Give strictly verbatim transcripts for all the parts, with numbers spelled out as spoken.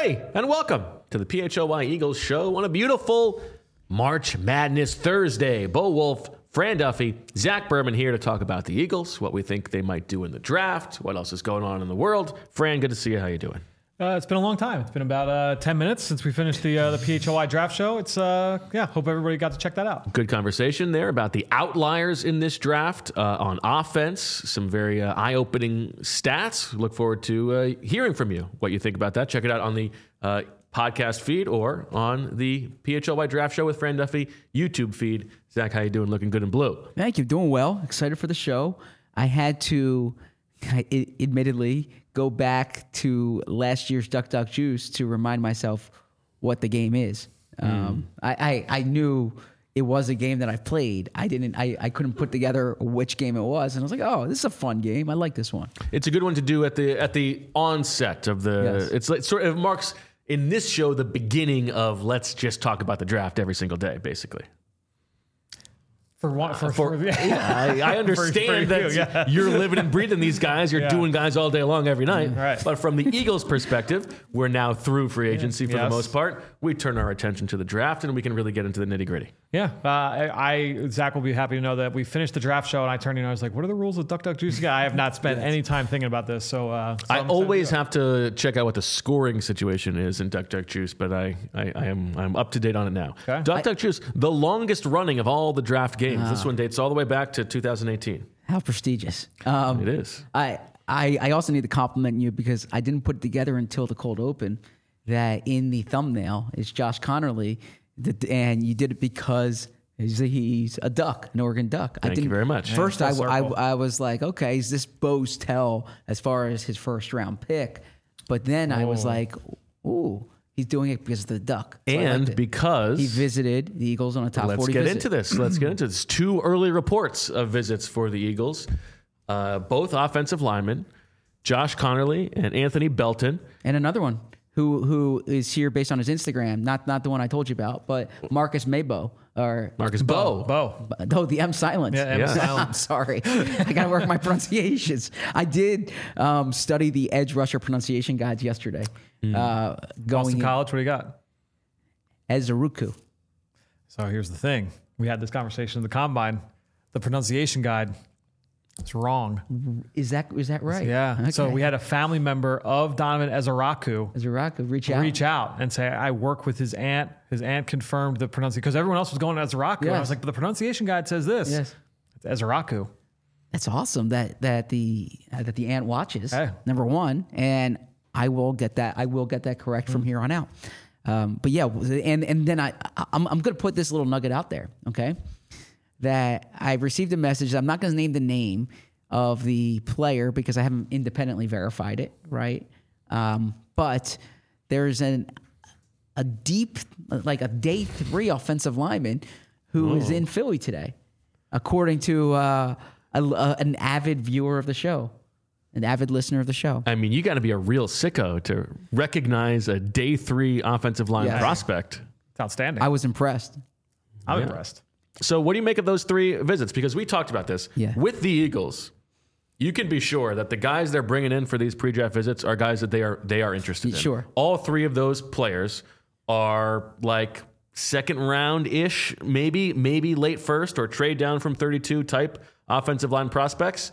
Hey, and welcome to the P H O Y Eagles show on a beautiful March Madness Thursday. Bo Wolf, Fran Duffy, Zach Berman here to talk about the Eagles, what we think they might do in the draft, what else is going on in the world. Fran, good to see you. How you doing? Uh, it's been a long time. It's been about uh, ten minutes since we finished the uh, the P H O Y draft show. It's uh, yeah. Hope everybody got to check that out. Good conversation there about the outliers in this draft uh, on offense. Some very uh, eye-opening stats. Look forward to uh, hearing from you what you think about that. Check it out on the uh, podcast feed or on the P H O Y Draft Show with Fran Duffy YouTube feed. Zach, how you doing? Looking good in blue. Thank you. Doing well. Excited for the show. I had to, I, admittedly, go back to last year's Duck Duck Juice to remind myself what the game is. Mm. Um, I, I I knew it was a game that I played. I didn't. I, I couldn't put together which game it was, and I was like, "Oh, this is a fun game. I like this one." It's a good one to do at the at the onset of the. Yes. It's like sort of marks in this show the beginning of let's just talk about the draft every single day, basically. For one, for, For, for, yeah, I, I understand for, for that you, yeah. you're living and breathing these guys. You're Yeah. doing guys all day long every night. Right. But from the Eagles' perspective, we're now through free agency for Yes. the most part. We turn our attention to the draft, and we can really get into the nitty gritty. Yeah, uh, I, I Zach will be happy to know that we finished the draft show, and I turned in. I was like, "What are the rules of Duck Duck Juice?" Again, I have not spent any time thinking about this, so, uh, so I I'm always excited have to check out what the scoring situation is in Duck Duck Juice, but I, I, I am I'm up to date on it now. Okay. Duck Duck Juice, the longest running of all the draft games. This one dates all the way back to two thousand eighteen. How prestigious! Um, It is. I, I I also need to compliment you because I didn't put it together until the cold open that in the thumbnail is Josh Connerly, and you did it because he's a, he's a duck, an Oregon Duck. I Thank you didn't, very much. First, Yeah, I, full I circle. I was like, okay, is this Bo's tell as far as his first round pick? But then I was Oh. like, ooh, he's doing it because of the duck. So I liked And it. because he visited the Eagles on a top Let's forty get visit. into this. Let's get into this. Two early reports of visits for the Eagles, uh, both offensive linemen, Josh Connerly and Anthony Belton. And another one who who is here based on his Instagram, not not the one I told you about, but Marcus Maybo or Marcus Bo. Bo. no, the M silence. Yeah, M Yeah. silent. I'm sorry, I gotta work my pronunciations. I did um, study the edge rusher pronunciation guides yesterday. Uh, going Boston in- College. What do you got? Ezeruku. So here's the thing: we had this conversation in the combine. The pronunciation guide. It's wrong. Is that is that right? Yeah. So Okay. we had a family member of Donovan Ezeraku Ezeruku, reach out. reach out and say, I work with his aunt. His aunt confirmed the pronunciation because everyone else was going Ezeraku. And I Yes. was like, but the pronunciation guide says this. Yes. It's Ezeraku. That's awesome that that the uh, that the aunt watches. Hey. Number one, and I will get that. I will get that correct from here on out. Um, but yeah, and and then I I'm I'm going to put this little nugget out there. Okay, that I received a message. I'm not going to name the name of the player because I haven't independently verified it. Right, um, but there's an a deep like a day three offensive lineman who is in Philly today, according to uh, a, a, an avid viewer of the show, an avid listener of the show. I mean, you got to be a real sicko to recognize a day three offensive line Yeah. prospect. It's outstanding. I was impressed. I'm Yeah. impressed. So what do you make of those three visits? Because we talked about this. Yeah. With the Eagles, you can be sure that the guys they're bringing in for these pre-draft visits are guys that they are they are interested in. Sure. All three of those players are like second round ish, maybe maybe late first or trade down from thirty-two type offensive line prospects.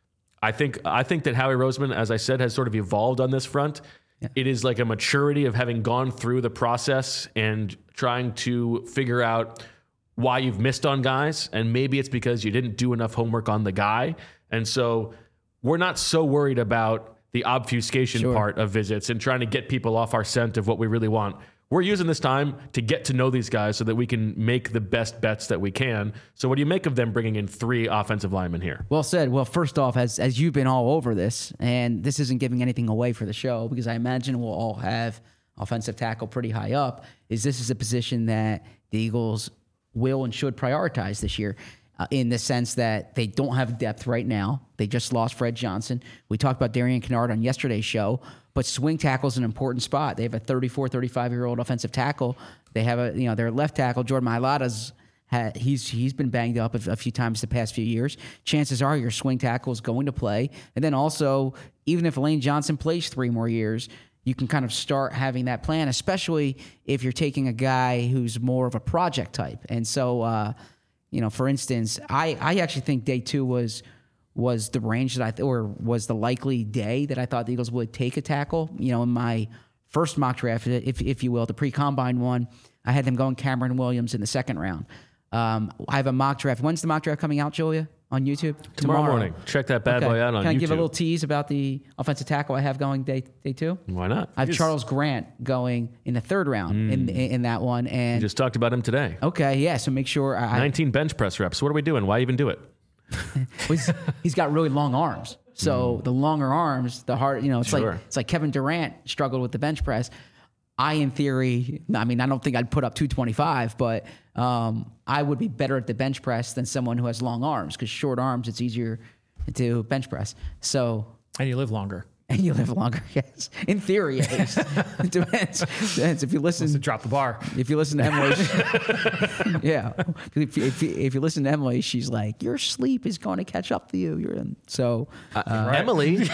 I think I think that Howie Roseman, as I said, has sort of evolved on this front. Yeah. It is like a maturity of having gone through the process and trying to figure out why you've missed on guys, and maybe it's because you didn't do enough homework on the guy. And so we're not so worried about the obfuscation Sure. part of visits and trying to get people off our scent of what we really want. We're using this time to get to know these guys so that we can make the best bets that we can. So what do you make of them bringing in three offensive linemen here? Well said. Well, first off, as as you've been all over this, and this isn't giving anything away for the show because I imagine we'll all have offensive tackle pretty high up, is this is a position that the Eagles will and should prioritize this year. Uh, in the sense that they don't have depth right now. They just lost Fred Johnson. We talked about Darian Kennard on yesterday's show, but swing tackle is an important spot. They have a thirty-four, thirty-five-year-old offensive tackle. They have a, you know, their left tackle, Jordan Mailata's had, he's he's been banged up a, a few times the past few years. Chances are your swing tackle is going to play. And then also, even if Lane Johnson plays three more years, you can kind of start having that plan, especially if you're taking a guy who's more of a project type. And so, uh, you know, for instance, I, I actually think day two was was the range that I th- or was the likely day that I thought the Eagles would take a tackle. You know, in my first mock draft, if if you will, the pre-combine one, I had them going Cameron Williams in the second round. Um, I have a mock draft. When's the mock draft coming out, Julia? On YouTube? Tomorrow, Tomorrow morning. Check that bad okay. boy out on YouTube. Can I give a little tease about the offensive tackle I have going day day two? Why not? I have yes. Charles Grant going in the third round mm. in, in in that one. And you just talked about him today. Okay, yeah. So make sure. I, nineteen bench press reps. What are we doing? Why even do it? well, he's, he's got really long arms. So mm. the longer arms, the harder. You know, it's sure. like it's like Kevin Durant struggled with the bench press. I, in theory, I mean, I don't think I'd put up two twenty-five, but um, I would be better at the bench press than someone who has long arms, because short arms, it's easier to bench press. So, and you live longer. And you live longer, yes. In theory, at least. It depends. Depends. If you listen, to drop the bar. If you listen to Emily, yeah. If, if, if you listen to Emily, she's like, your sleep is going to catch up to you. You're in. So uh, uh, right. Emily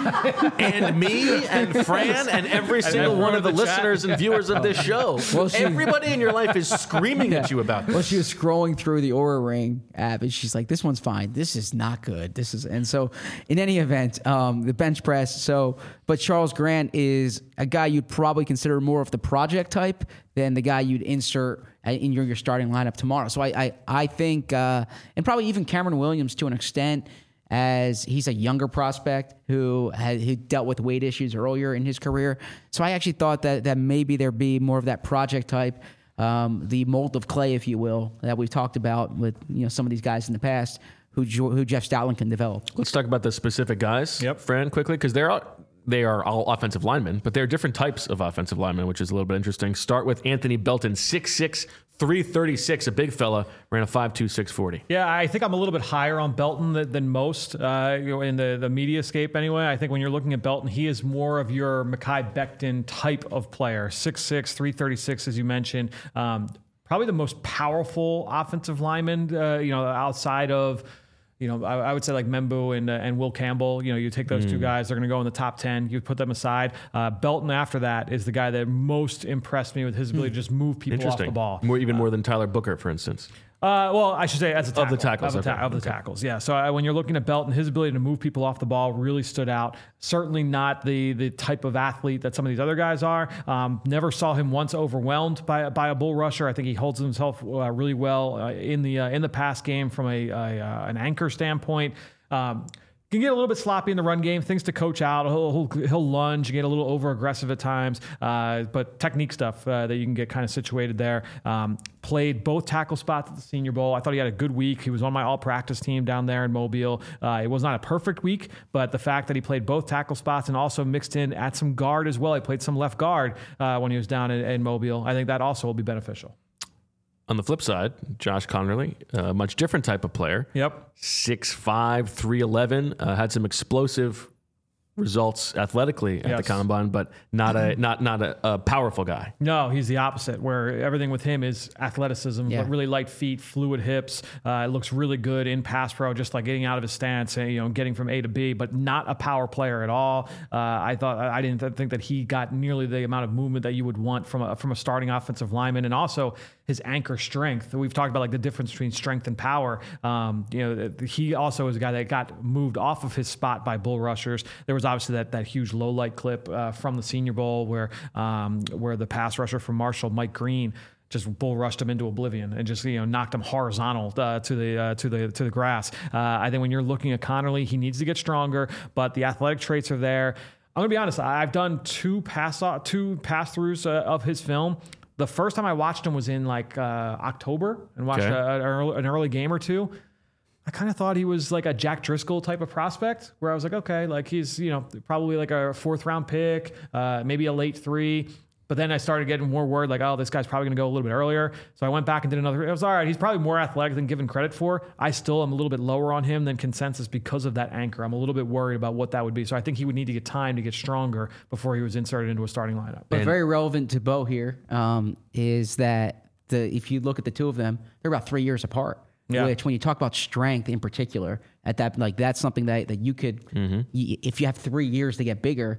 and me and Fran and every and single one of the, the listeners and viewers of this show. Well, she, everybody in your life is screaming yeah. at you about this. Well, she was scrolling through the Oura Ring app, and she's like, "This one's fine. This is not good. This is." And so, in any event, um, the bench press. So, but Charles Grant is a guy you'd probably consider more of the project type than the guy you'd insert in your, your starting lineup tomorrow. So I I, I think, uh, and probably even Cameron Williams to an extent, as he's a younger prospect who had who dealt with weight issues earlier in his career. So I actually thought that that maybe there'd be more of that project type, um, the mold of clay, if you will, that we've talked about with you know some of these guys in the past who who Jeff Stoutland can develop. Let's talk about the specific guys, yep. Fran, quickly, because they're all, they are all offensive linemen, but they're different types of offensive linemen, which is a little bit interesting. Start with Anthony Belton, six six, three thirty-six, a big fella, ran a five two, six forty. Yeah, I think I'm a little bit higher on Belton than, than most uh, you know, in the, the mediascape anyway. I think when you're looking at Belton, he is more of your Mekhi Becton type of player, six six, three thirty-six, as you mentioned. Um, probably the most powerful offensive lineman, uh, you know, outside of... You know, I, I would say like Membu and uh, and Will Campbell. You know, you take those mm. two guys; they're going to go in the top ten. You put them aside. Uh, Belton, after that, is the guy that most impressed me with his ability mm. to just move people off the ball. More, even uh, more than Tyler Booker, for instance. Uh, well, I should say as a tackle. Of the tackles. Of the, ta- okay. of the okay. tackles, yeah. So uh, when you're looking at Belton, his ability to move people off the ball really stood out. Certainly not the the type of athlete that some of these other guys are. Um, never saw him once overwhelmed by, by a bull rusher. I think he holds himself uh, really well uh, in the uh, in the pass game from a, a uh, an anchor standpoint. Um, can get a little bit sloppy in the run game, things to coach out. He'll, he'll, he'll lunge, get a little over aggressive at times, uh, but technique stuff uh, that you can get kind of situated there. Um, played both tackle spots at the Senior Bowl. I thought he had a good week. He was on my all practice team down there in Mobile. Uh, it was not a perfect week, but the fact that he played both tackle spots and also mixed in at some guard as well. He played some left guard uh, when he was down in, in Mobile. I think that also will be beneficial. On the flip side, Josh Connerly, a much different type of player. Yep. six five, three eleven, uh, had some explosive results athletically at yes. the combine, but not a not not a, a powerful guy. No, he's the opposite, where everything with him is athleticism, yeah. but really light feet, fluid hips. Uh, it looks really good in pass pro, just like getting out of his stance and you know getting from A to B, but not a power player at all. Uh, I thought I didn't th- think that he got nearly the amount of movement that you would want from a from a starting offensive lineman, and also his anchor strength. We've talked about like the difference between strength and power. Um, you know, he also is a guy that got moved off of his spot by bull rushers. There was obviously that that huge low light clip uh, from the Senior Bowl where um, where the pass rusher from Marshall, Mike Green, just bull rushed him into oblivion and just you know knocked him horizontal uh, to the uh, to the to the grass. Uh, I think when you're looking at Connerly, he needs to get stronger, but the athletic traits are there. I'm gonna be honest. I've done two pass two pass throughs uh, of his film. The first time I watched him was in like uh, October and watched okay. a, an, early, an early game or two. I kind of thought he was like a Jack Driscoll type of prospect where I was like, okay, like he's, you know, probably like a fourth round pick, uh, maybe a late three. But then I started getting more word like, oh, this guy's probably going to go a little bit earlier. So I went back and did another. It was all right. He's probably more athletic than given credit for. I still am a little bit lower on him than consensus because of that anchor. I'm a little bit worried about what that would be. So I think he would need to get time to get stronger before he was inserted into a starting lineup. But and very relevant to Bo here um, is that the if you look at the two of them, they're about three years apart. Yeah. Which, when you talk about strength in particular, at that like that's something that that you could, mm-hmm. y- if you have three years to get bigger,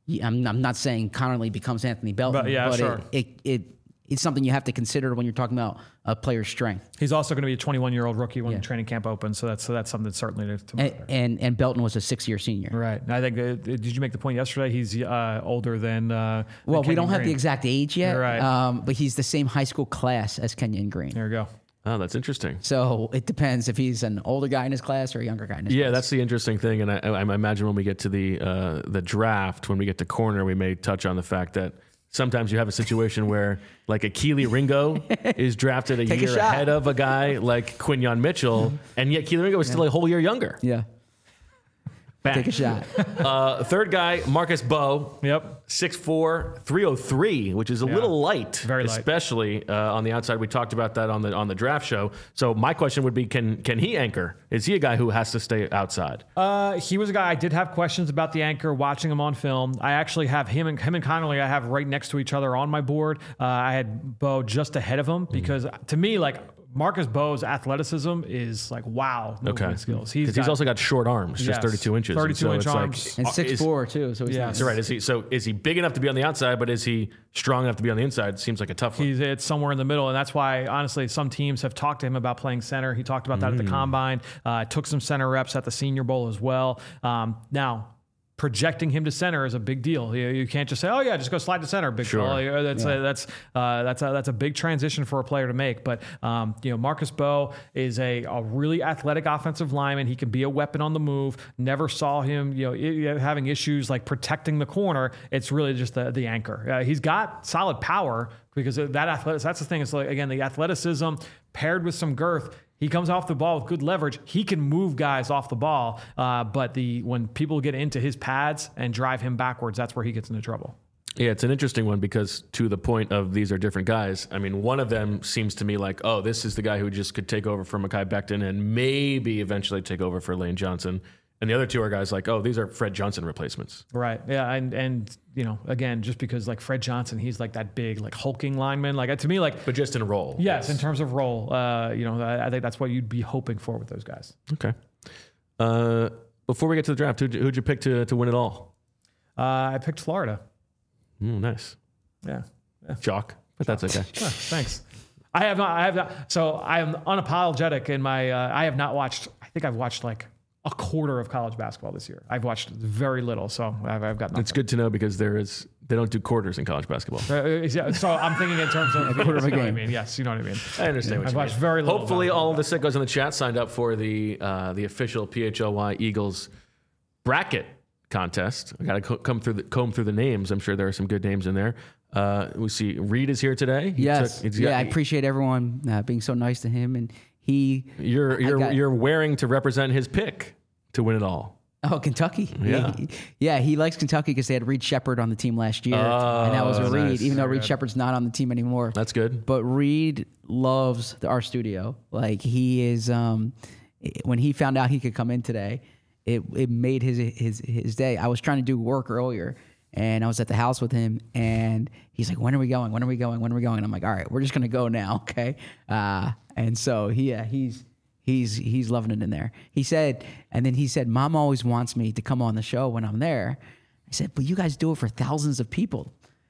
I'm, I'm not saying Connerly becomes Anthony Belton, But, yeah, but sure. it, it, it it's something you have to consider when you're talking about a player's strength. He's also going to be a twenty-one-year-old rookie when Yeah. training camp opens, so that's so that's something certainly to, to And, monitor. and and Belton was a six-year senior. Right. I think. Uh, did you make the point yesterday? He's uh, older than. Uh, Well, than we don't Kenyon have the Green. exact age yet, You're right. um, but he's the same high school class as Kenyon Green. There you go. Oh, that's interesting. So it depends if he's an older guy in his class or a younger guy in his Yeah, class. that's the interesting thing, and I, I imagine when we get to the uh, the draft, when we get to corner, we may touch on the fact that sometimes you have a situation where, like, a Keely Ringo is drafted a Take a year shot. ahead of a guy like Quinyon Mitchell, and yet Keely Ringo is still a whole year younger. Yeah. Bang. Take a shot. Uh, third guy, Marcus Bowe. Yep. six four, three oh three, which is a Yeah. little light, Very light. especially uh, on the outside. We talked about that on the on the draft show. So my question would be, can can he anchor? Is he a guy who has to stay outside? Uh, he was a guy I did have questions about the anchor watching him on film. I actually have him and him and Connerly I have right next to each other on my board. Uh, I had Bowe just ahead of him because to me, like, Marcus Bowe's athleticism is like, wow, movement Okay. skills. He's, Because he's got- also got short arms, just Yes. thirty-two inches. And thirty-two so inch it's like- arms. And uh, six is- four too. So he's Yeah. not. So right, is he so is he big enough to be on the outside, but is he strong enough to be on the inside? Seems like a tough one. He's it's somewhere in the middle, and that's why honestly some teams have talked to him about playing center. He talked about that at the combine. Uh, took some center reps at the Senior Bowl as well. Um, now. Projecting him to center is a big deal. You, you can't just say, "Oh yeah, just go slide to center." Big Sure. fella. You know, That's a, that's uh, that's a, that's a big transition for a player to make. But um, you know, Marcus Bowe is a, a really athletic offensive lineman. He can be a weapon on the move. Never saw him, you know, i- having issues like protecting the corner. It's really just the the anchor. Uh, he's got solid power because of that athletic. That's the thing. It's like again the athleticism paired with some girth. He comes off the ball with good leverage. He can move guys off the ball, uh, but the when people get into his pads and drive him backwards, that's where he gets into trouble. Yeah, it's an interesting one because to the point of these are different guys. I mean, one of them seems to me like, oh, this is the guy who just could take over for Mekhi Becton and maybe eventually take over for Lane Johnson. And the other two are guys like, oh, these are Fred Johnson replacements. Right. Yeah. And, and, you know, again, just because like Fred Johnson, he's like that big, like hulking lineman. Like to me, like, But just in role. yes, in terms of role, uh, you know, I, I think that's what you'd be hoping for with those guys. Okay. Uh, before we get to the draft, who'd you, who'd you pick to, to win it all? Uh, I picked Florida. Mm, nice. Yeah. yeah. Chalk, but that's okay. Huh, thanks. I have not, I have not, so I am unapologetic in my, uh, I have not watched, I think I've watched like a quarter of college basketball this year. I've watched very little, so I've, I've got nothing. It's good to know because there is they don't do quarters in college basketball. Uh, yeah, so I'm thinking in terms of quarter of a you know what I game. mean. Yes, you know what I mean. I understand what I've you watched mean. very little. Hopefully, basketball. all of the sickos in the chat signed up for the uh, the official P H L Y Eagles bracket contest. I got to co- come through the comb through the names. I'm sure there are some good names in there. Uh, we see Reed is here today. He Yes. took- he's yeah, got- I appreciate everyone uh, being so nice to him, and he. You're I you're got- you're wearing to represent his pick to win it all. Oh, Kentucky. Yeah. he, yeah, he likes Kentucky because they had Reed Shepard on the team last year, and that was Oh, a Reed. nice. Even though Very Reed good. Shepard's not on the team anymore. That's good. But Reed loves the, our studio. Like he is. Um, when he found out he could come in today, it it made his his his day. I was trying to do work earlier, and I was at the house with him, and he's like, "When are we going? When are we going? When are we going?" And I'm like, "All right, we're just gonna go now, okay?" Uh, and so he, yeah, he's. He's he's loving it in there. He said, and then he said, "Mom always wants me to come on the show when I'm there." I said, "But you guys do it for thousands of people,"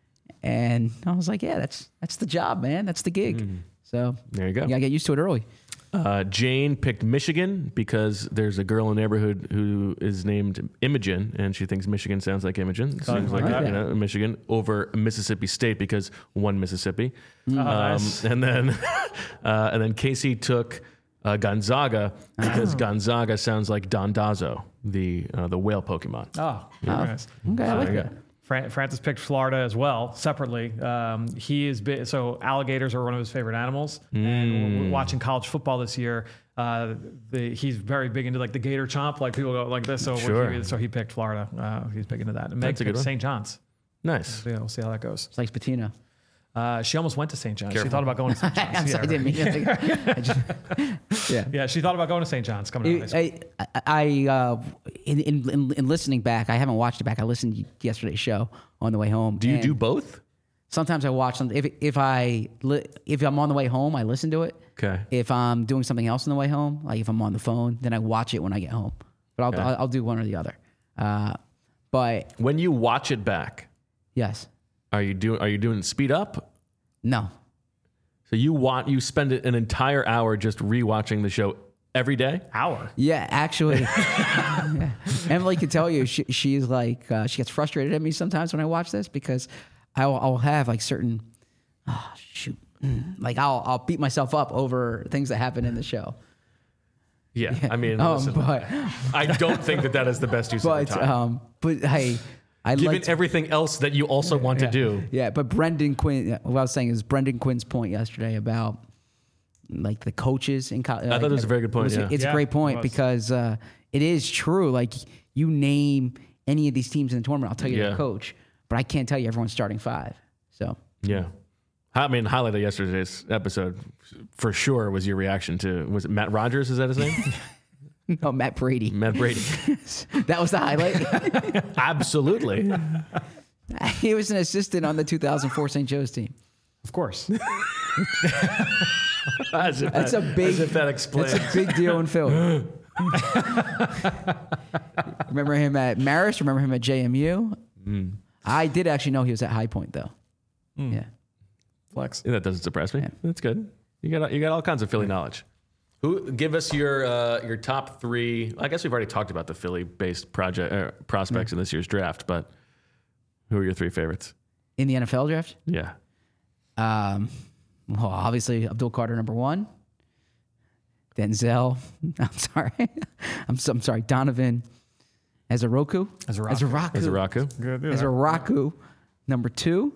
and I was like, "Yeah, that's that's the job, man. That's the gig." So There you go. You gotta get used to it early. Uh, Jane picked Michigan because there's a girl in the neighborhood who is named Imogen, and she thinks Michigan sounds like Imogen. Seems like, like you that. know, Michigan over Mississippi State because one Mississippi. Oh, Um, nice. And then, uh, and then Casey took uh, Gonzaga because Oh. Gonzaga sounds like Dondazo, the uh, the whale Pokemon. Oh, very nice. Okay, I like there you that. Fran- Francis picked Florida as well, separately. Um, he is bi- so alligators are one of his favorite animals, and w- w- watching college football this year, uh, the, he's very big into like the gator chomp, like people go like this. So Sure. he, so he picked Florida. Uh, he's big into that. And Meg That's a good picked one. Saint John's. Nice. So yeah, we'll see how that goes. It's like Patina. Uh, she almost went to Saint John's. She Careful. thought about going to Saint John's. I'm yeah, sorry, I didn't mean to. I just- yeah. yeah, she thought about going to Saint John's coming out of high school. I, I, I uh, in, in, in, in listening back, I haven't watched it back. I listened to yesterday's show on the way home. Do you and do both? Sometimes I watch something. If if I li- if I'm on the way home, I listen to it. Okay. If I'm doing something else on the way home, like if I'm on the phone, then I watch it when I get home. But I'll Okay. I'll, I'll do one or the other. Uh, But When you watch it back, yes, are you doing are you doing speed up? no. So you want you spend an entire hour just rewatching the show every day? Hour. Yeah, actually, yeah. Emily can tell you she, she's like uh, she gets frustrated at me sometimes when I watch this because I'll, I'll have like certain oh, shoot mm, like I'll I'll beat myself up over things that happen in the show. Yeah, I mean, Um, listen, but I don't think that that is the best use of but your time. um, but hey, I Given like everything else that you also want to do. yeah. But Brendan Quinn, what I was saying is Brendan Quinn's point yesterday about like the coaches in college. I thought it was a very good point, yeah. It's Yeah, a great it point was. because uh, it is true. Like you name any of these teams in the tournament, I'll tell you Yeah. their coach, but I can't tell you everyone's starting five. So Yeah. I mean, highlight of yesterday's episode for sure was your reaction to, was it Matt Rogers? Is that his name? no, Matt Brady. Matt Brady. That was the highlight. Absolutely. He was an assistant on the two thousand four Saint Joe's team. Of course. As if That's that, a big. as if that explains. That's a big deal in Philly. Remember him at Marist? Remember him at J M U? Mm. I did actually know he was at High Point though. Yeah. Flex. That doesn't surprise me. That's good. You got you got all kinds of Philly knowledge. Who give us your uh, your top three? I guess we've already talked about the Philly-based project uh, prospects in this year's draft, but who are your three favorites? In the N F L draft? Yeah, Um, well, obviously Abdul Carter number one. Denzel. I'm sorry. I'm so, I'm sorry. Donovan Ezoroku. Ezoroku. Ezoroku. Izaraku. Good. Yeah. Ezoroku number two.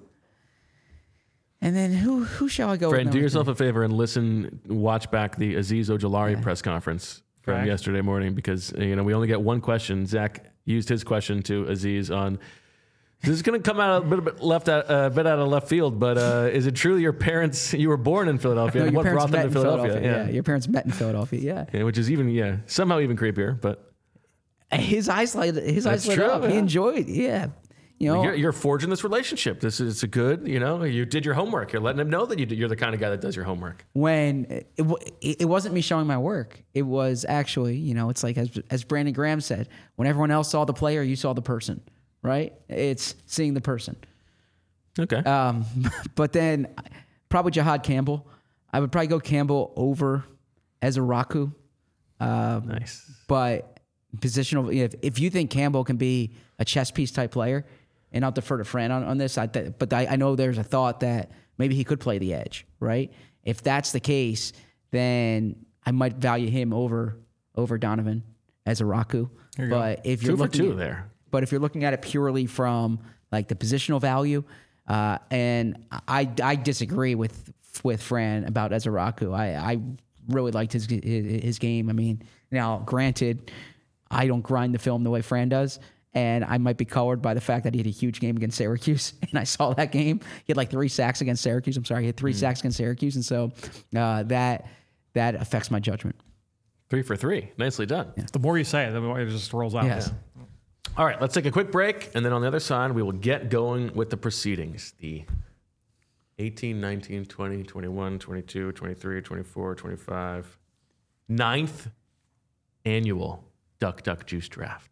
And then who who shall I go Fran, with? do number yourself three? a favor and listen, watch back the Aziz Ojolari press conference from Okay. yesterday morning because you know we only get one question. Zach used his question to Aziz on. This is going to come out a bit, a bit left out, a bit out of left field, but uh, is it true your parents? You were born in Philadelphia. No, and your what parents brought met them in to Philadelphia? Philadelphia. Yeah. Your parents met in Philadelphia. Yeah. Yeah, which is even yeah somehow even creepier. But His eyes light his That's eyes lit true, up. He yeah. enjoyed. Yeah. You know, you're, you're forging this relationship. This is a good. You know, you did your homework. You're letting him know that you, you're the kind of guy that does your homework. when it, w- it wasn't me showing my work. It was actually, you know, it's like as as Brandon Graham said, when everyone else saw the player, you saw the person, right? It's seeing the person. Okay. Um, but then probably Jahad Campbell. I would probably go Campbell over Ezeraku. Um, nice. But positional, if, if you think Campbell can be a chess piece type player, and I'll defer to Fran on, on this, I th- but I, I know there's a thought that maybe he could play the edge, right? If that's the case, then I might value him over over Donovan Ezeraku. But if you're Two for looking two at, there. but if you're looking at it purely from like the positional value, uh, and I I disagree with with Fran about Ezeraku. I I really liked his his, his game. I mean, now granted, I don't grind the film the way Fran does. And I might be colored by the fact that he had a huge game against Syracuse. And I saw that game. He had like three sacks against Syracuse. I'm sorry. He had three Mm. sacks against Syracuse. And so uh, that that affects my judgment. Three for three. Nicely done. The more you say it, the more it just rolls out. Yes. All right, let's take a quick break. And then on the other side, we will get going with the proceedings. The eighteen, nineteen, twenty, twenty-one, twenty-two, twenty-three, twenty-four, twenty-five, ninth annual Duck Duck Juice Draft.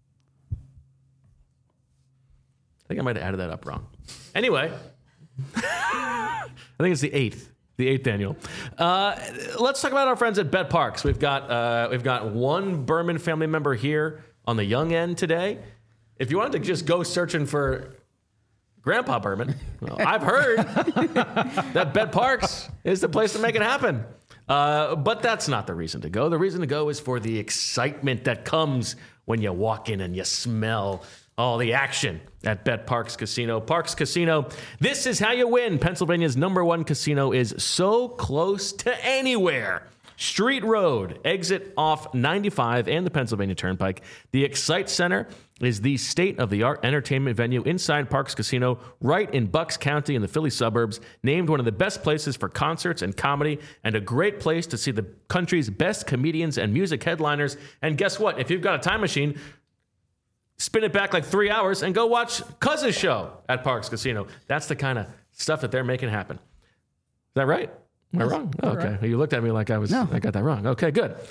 I think I might have added that up wrong. Anyway, I think it's the eighth, the eighth annual. Uh, let's talk about our friends at Bet Parks. We've got uh, we've got one Berman family member here on the young end today. If you wanted to just go searching for Grandpa Berman, well, I've heard that Bet Parks is the place to make it happen. Uh, but that's not the reason to go. The reason to go is for the excitement that comes when you walk in and you smell all the action at Bet Parks Casino. Parks Casino, this is how you win. Pennsylvania's number one casino is so close to anywhere. Street Road, exit off ninety-five and the Pennsylvania Turnpike. The Excite Center is the state-of-the-art entertainment venue inside Parks Casino, right in Bucks County in the Philly suburbs, named one of the best places for concerts and comedy, and a great place to see the country's best comedians and music headliners. And guess what? If you've got a time machine, spin it back like three hours and go watch Cuz's show at Parks Casino. That's the kind of stuff that they're making happen. Is that right? Am I wrong? Oh, okay. You looked at me like I was. No. I got that wrong. Okay, good.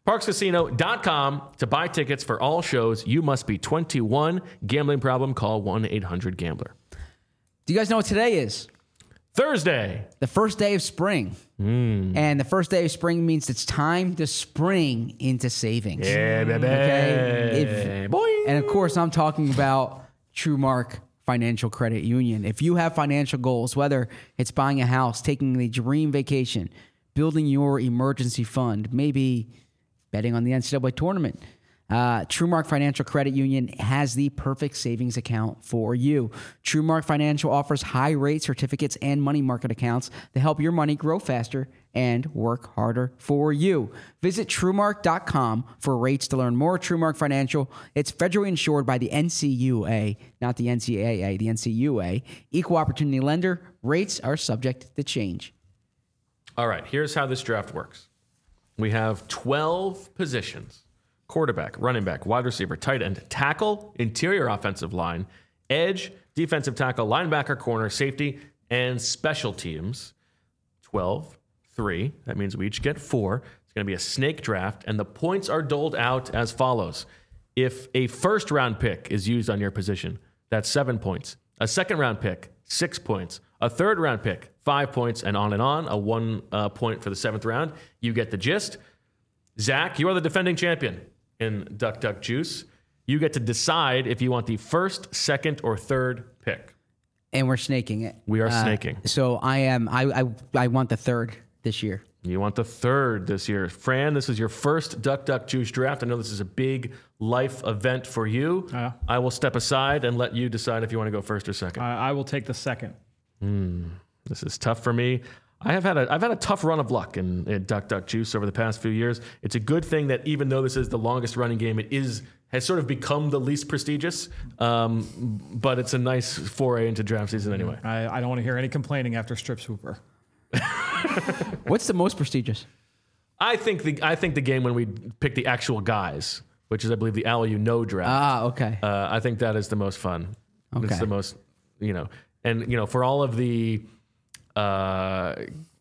parx casino dot com to buy tickets for all shows. You must be twenty-one. Gambling problem? Call one eight hundred gambler. Do you guys know what today is? Thursday. The first day of spring. Mm. And the first day of spring means it's time to spring into savings. Yeah, baby. Okay? If, Boing. And of course, I'm talking about TrueMark Financial Credit Union. If you have financial goals, whether it's buying a house, taking a dream vacation, building your emergency fund, maybe betting on the N C double A tournament, Uh, TrueMark Financial Credit Union has the perfect savings account for you. TrueMark Financial offers high-rate certificates and money market accounts to help your money grow faster and work harder for you. Visit TrueMark dot com for rates to learn more. TrueMark Financial, it's federally insured by the N C U A, not the N C A A, the N C U A. Equal opportunity lender. Rates are subject to change. All right, here's how this draft works. We have twelve positions. Quarterback, running back, wide receiver, tight end, tackle, interior offensive line, edge, defensive tackle, linebacker, corner, safety, and special teams. twelve, three. That means we each get four. It's going to be a snake draft, and the points are doled out as follows. If a first round pick is used on your position, that's seven points. A second round pick, six points. A third round pick, five points, and on and on. A one uh, point for the seventh round. You get the gist. Zach, you are the defending champion in Duck Duck Juice. You get to decide if you want the first, second, or third pick. And we're snaking it. We are uh, snaking. So I am. I, I I want the third this year. You want the third this year. Fran, this is your first Duck Duck Juice draft. I know this is a big life event for you. Uh, I will step aside and let you decide if you want to go first or second. I, I will take the second. Mm, this is tough for me. I have had a I've had a tough run of luck in, in Duck Duck Juice over the past few years. It's a good thing that even though this is the longest running game, it is has sort of become the least prestigious. Um, but it's a nice foray into draft season anyway. I, I don't want to hear any complaining after Strip Swooper. What's the most prestigious? I think the I think the game when we pick the actual guys, which is I believe the Al You Know draft. Ah, okay. Uh, I think that is the most fun. Okay. It's the most, you know, and you know for all of the. Uh,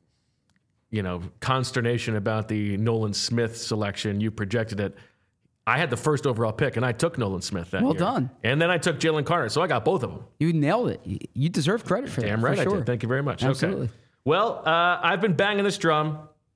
you know, consternation about the Nolan Smith selection. You projected it. I had the first overall pick, and I took Nolan Smith that well year. done. And then I took Jalen Carter, so I got both of them. You nailed it. You- You deserve credit for that. Damn right for I sure. did. Thank you very much. Absolutely. Okay. Well, uh, I've been banging this drum.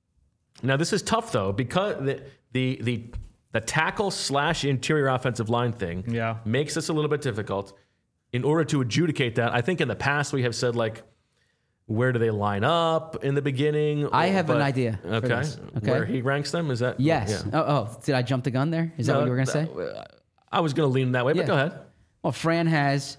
Now, this is tough, though, because the the the, the tackle slash interior offensive line thing Yeah. makes this a little bit difficult. In order to adjudicate that, I think in the past we have said, like, where do they line up in the beginning? I have an But- idea for Okay. this, okay? Where he ranks them? Is that? Yes. Yeah. Oh, oh, did I jump the gun there? Is that No, what you were going to say? uh, I was going to lean that way, but Yeah. go ahead. Well, Fran has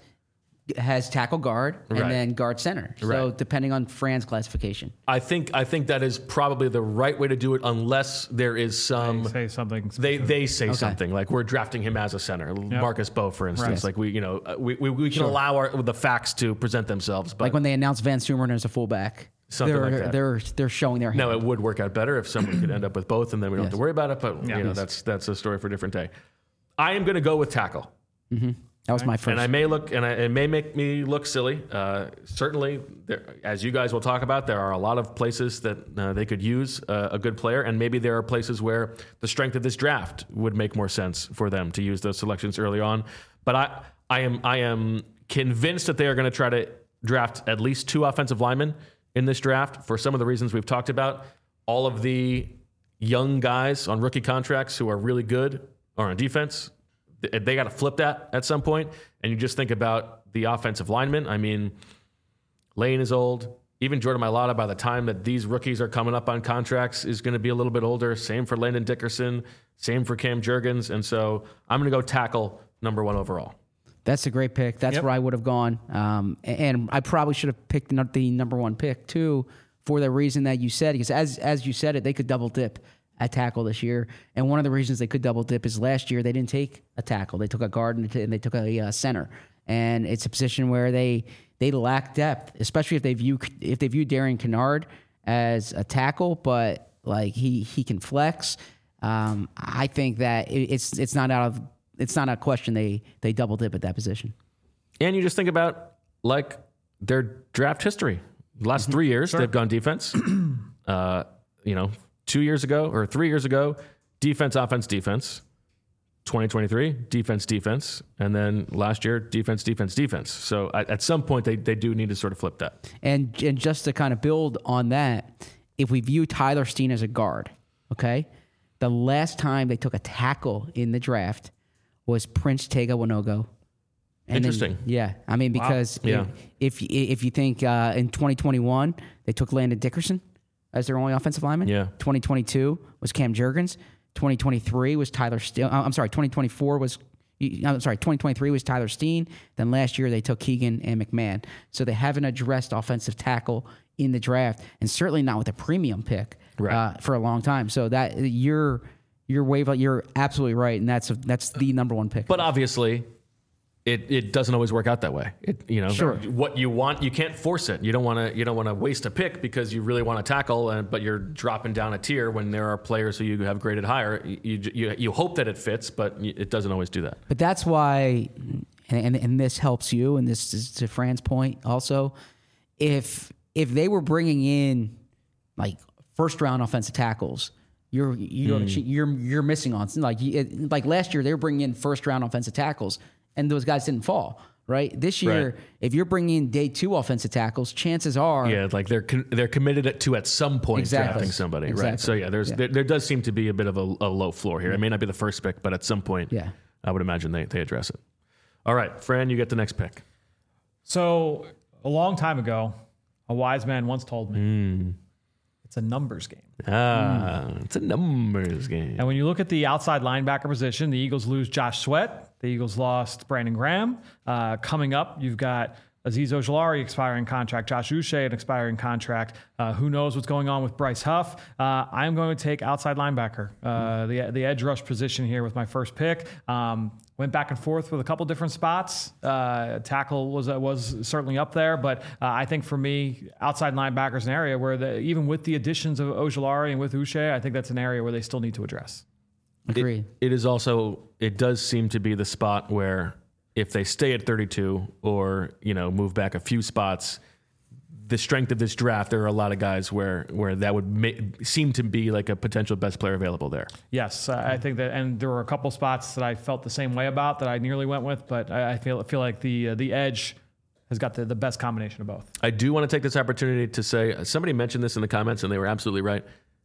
has tackle guard and Right. then guard center. So Right. depending on Fran's classification. I think I think that is probably the right way to do it, unless there is some. Say something. They specific. they say something like we're drafting him as a center, Marcus Bowe, for instance. Right. Like we you know uh, we we, we can allow our, the facts to present themselves, but Like when they announced Van Sumeren as a fullback. Something they're, like that. They're they're showing their hand. no, it would work out better if someone could end up with both, and then we don't have Yes. to worry about it. But you know Yes. that's that's a story for a different day. I am going to go with tackle. That was my first. And I may look, and I, it may make me look silly. Uh, certainly, there, as you guys will talk about, there are a lot of places that uh, they could use uh, a good player, and maybe there are places where the strength of this draft would make more sense for them to use those selections early on. But I, I am, I am convinced that they are going to try to draft at least two offensive linemen in this draft for some of the reasons we've talked about. All of the young guys on rookie contracts who are really good are on defense. They got to flip that at some point, and you just think about the offensive linemen. I mean, Lane is old. Even Jordan Mailata, by the time that these rookies are coming up on contracts, is going to be a little bit older. Same for Landon Dickerson. Same for Cam Jurgens. And so I'm going to go tackle number one overall. That's a great pick. That's Yep. where I would have gone. Um, and I probably should have picked the the number one pick too, for the reason that you said. Because as as you said it, they could double dip at tackle this year. And one of the reasons they could double dip is last year they didn't take a tackle. They took a guard and they- and they took a uh, center. And it's a position where they they lack depth, especially if they view if they view Darian Kennard as a tackle, but like he he can flex. Um, I think that it, it's it's not out of it's not a question they they double dip at that position. And you just think about like their draft history. The last three years, they've gone defense. uh, you know, two years ago or three years ago, defense, offense, defense. twenty twenty-three, defense, defense. And then last year, defense, defense, defense. So at, at some point, they, they do need to sort of flip that. And and just to kind of build on that, if we view Tyler Steen as a guard, okay, the last time they took a tackle in the draft was Prince Tega Wanogo. And Interesting. Then, yeah. I mean, because Wow. Yeah. if, if if you think uh, in twenty twenty-one, they took Landon Dickerson as their only offensive lineman. Yeah. twenty twenty-two was Cam Jurgens. twenty twenty-three was Tyler Steen. I'm sorry, twenty twenty-four was, I'm sorry, twenty twenty-three was Tyler Steen. Then last year they took Keegan and McMahon. So they haven't addressed offensive tackle in the draft, and certainly not with a premium pick Right. uh, for a long time. So that you're you're wave, you're absolutely right, and that's a, that's the number one pick. But obviously, it, it doesn't always work out that way. It, you know, Sure. what you want, you can't force it. You don't want to you don't want to waste a pick because you really want to tackle, and, but you're dropping down a tier when there are players who you have graded higher. You you, you hope that it fits, but it doesn't always do that. But that's why, and, and and this helps you, and this is to Fran's point also. If if they were bringing in like first round offensive tackles, you're you're Mm. you're you're missing on like you- it, like last year they were bringing in first round offensive tackles, and those guys didn't fall. Right this year, Right. if you're bringing in day two offensive tackles, chances are Yeah, like they're con- they're committed to at some point Exactly. drafting somebody, right? Exactly. So yeah, there's Yeah. There, there does seem to be a bit of a, a low floor here. It may not be the first pick, but at some point, Yeah. I would imagine they they address it. All right, Fran, you get the next pick. So a long time ago, a wise man once told me, Mm. it's a numbers game. Ah, it's a numbers game. And when you look at the outside linebacker position, the Eagles lose Josh Sweat. The Eagles lost Brandon Graham. Uh, coming up, you've got Azeez Ojulari expiring contract, Josh Uche an expiring contract. Uh, who knows what's going on with Bryce Huff? Uh, I'm going to take outside linebacker, uh, the the edge rush position here with my first pick. Um, went back and forth with a couple different spots. Uh, tackle was uh, was certainly up there, but uh, I think for me, outside linebacker is an area where the, even with the additions of Ojulari and with Uche, I think that's an area where they still need to address. agreed. It is also, it does seem to be the spot where if they stay at thirty-two or, you know, move back a few spots, the strength of this draft, there are a lot of guys where where that would ma- seem to be like a potential best player available there. Yes, I I think that, and there were a couple spots that I felt the same way about that I nearly went with, but I I feel feel like the uh, the edge has got the, the best combination of both. I do want to take this opportunity to say, somebody mentioned this in the comments and they were absolutely right.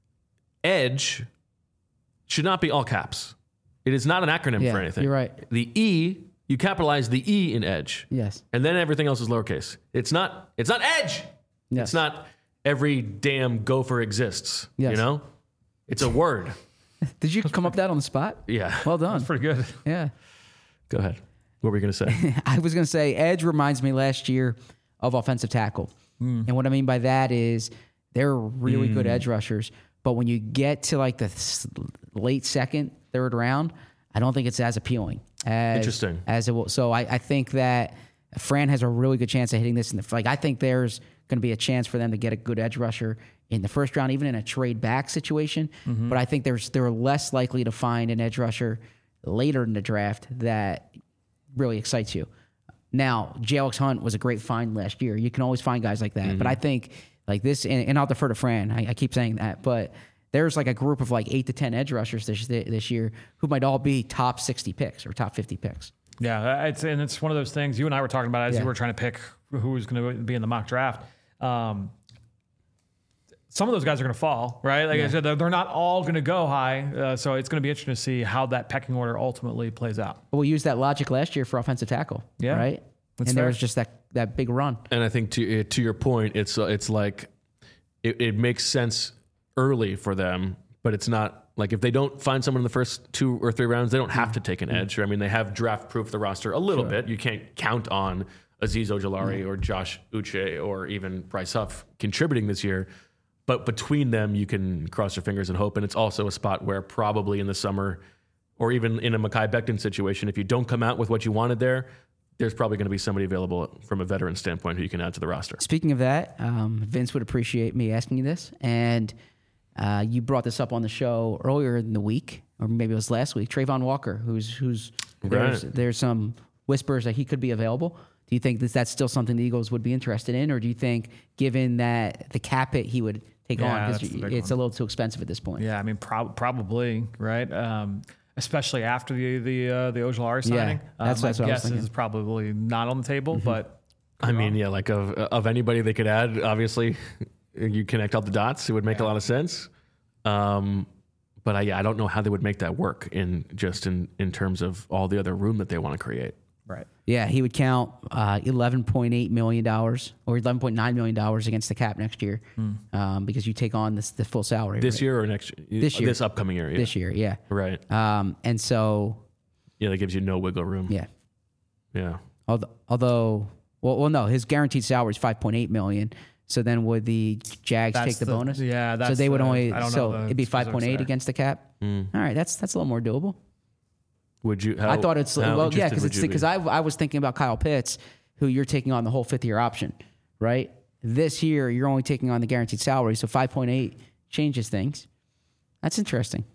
Edge should not be all caps. It is not an acronym Yeah, for anything. you're right. The E, you capitalize the E in edge. Yes. And then everything else is lowercase. It's not it's not edge. Yes. It's not every damn gopher exists. Yes. You know? It's a word. Did you come up with that on the spot? Yeah. Well done. Pretty good. Yeah. Go ahead. What were you gonna say? I was going to say edge reminds me last year of offensive tackle. Hmm. And what I mean by that is they're really good edge rushers. But when you get to like the th- late second, third round, I don't think it's as appealing. As, Interesting. As it will. So I, I think that Fran has a really good chance of hitting this in the like. I think there's going to be a chance for them to get a good edge rusher in the first round, even in a trade back situation. Mm-hmm. But I think there's they're less likely to find an edge rusher later in the draft that really excites you. Now, J Alex Hunt was a great find last year. You can always find guys like that. Mm-hmm. But I think like this, and, and I'll defer to Fran. I, I keep saying that, but there's like a group of like eight to ten edge rushers this this year who might all be top sixty picks or top fifty picks. Yeah, it's and it's one of those things you and I were talking about as Yeah. you were trying to pick who was going to be in the mock draft. Um, some of those guys are going to fall, right? Like I said, they're, they're not all going to go high. Uh, so it's going to be interesting to see how that pecking order ultimately plays out. But we used that logic last year for offensive tackle. Yeah, Right. that's and there fair. was just that that big run. And I think to uh, to your point, it's uh, it's like it, it makes sense early for them, but it's not like if they don't find someone in the first two or three rounds, they don't have to take an edge. I mean, they have draft proof the roster a little bit. You can't count on Azeez Ojulari or Josh Uche or even Bryce Huff contributing this year. But between them, you can cross your fingers and hope. And it's also a spot where probably in the summer or even in a Mekhi Becton situation, if you don't come out with what you wanted there, there's probably going to be somebody available from a veteran standpoint who you can add to the roster. Speaking of that, um, Vince would appreciate me asking you this. And uh, you brought this up on the show earlier in the week, or maybe it was last week. Trayvon Walker, who's who's there's, Right. there's some whispers that he could be available Do you think that that's still something the Eagles would be interested in, or do you think, given that the cap hit, he would take Yeah, on that's because the big it's one. a little too expensive at this point? Yeah, I mean, prob- probably, right? Um, especially after the the uh, the Ojulari Yeah, signing. that's- uh, that's my what I was guess thinking. is probably not on the table, but I mean, yeah, like of of anybody they could add, obviously, you connect all the dots. It would make a lot of sense. Um, but I, yeah, I don't know how they would make that work in just in, in terms of all the other room that they want to create. right. Yeah, he would count uh, eleven point eight million dollars or eleven point nine million dollars against the cap next year um, because you take on this, the full salary. This right? year or next year? This year. This upcoming year. Yeah. This year, yeah. Right. Um, and so, Yeah, that gives you no wiggle room. yeah. Yeah. Although, although well, well, no, his guaranteed salary is five point eight million dollars. So then would the Jags That's take the, the- bonus? yeah, So that's they would the- only, I don't know so the it'd be five point eight specifics there. against the cap. Mm. All right, that's that's a little more doable. Would you? How, I thought it's how well, yeah, interested because would it's you be? because I I was thinking about Kyle Pitts, who you're taking on the whole fifth year option, right? This year you're only taking on the guaranteed salary, so five point eight changes things. That's interesting.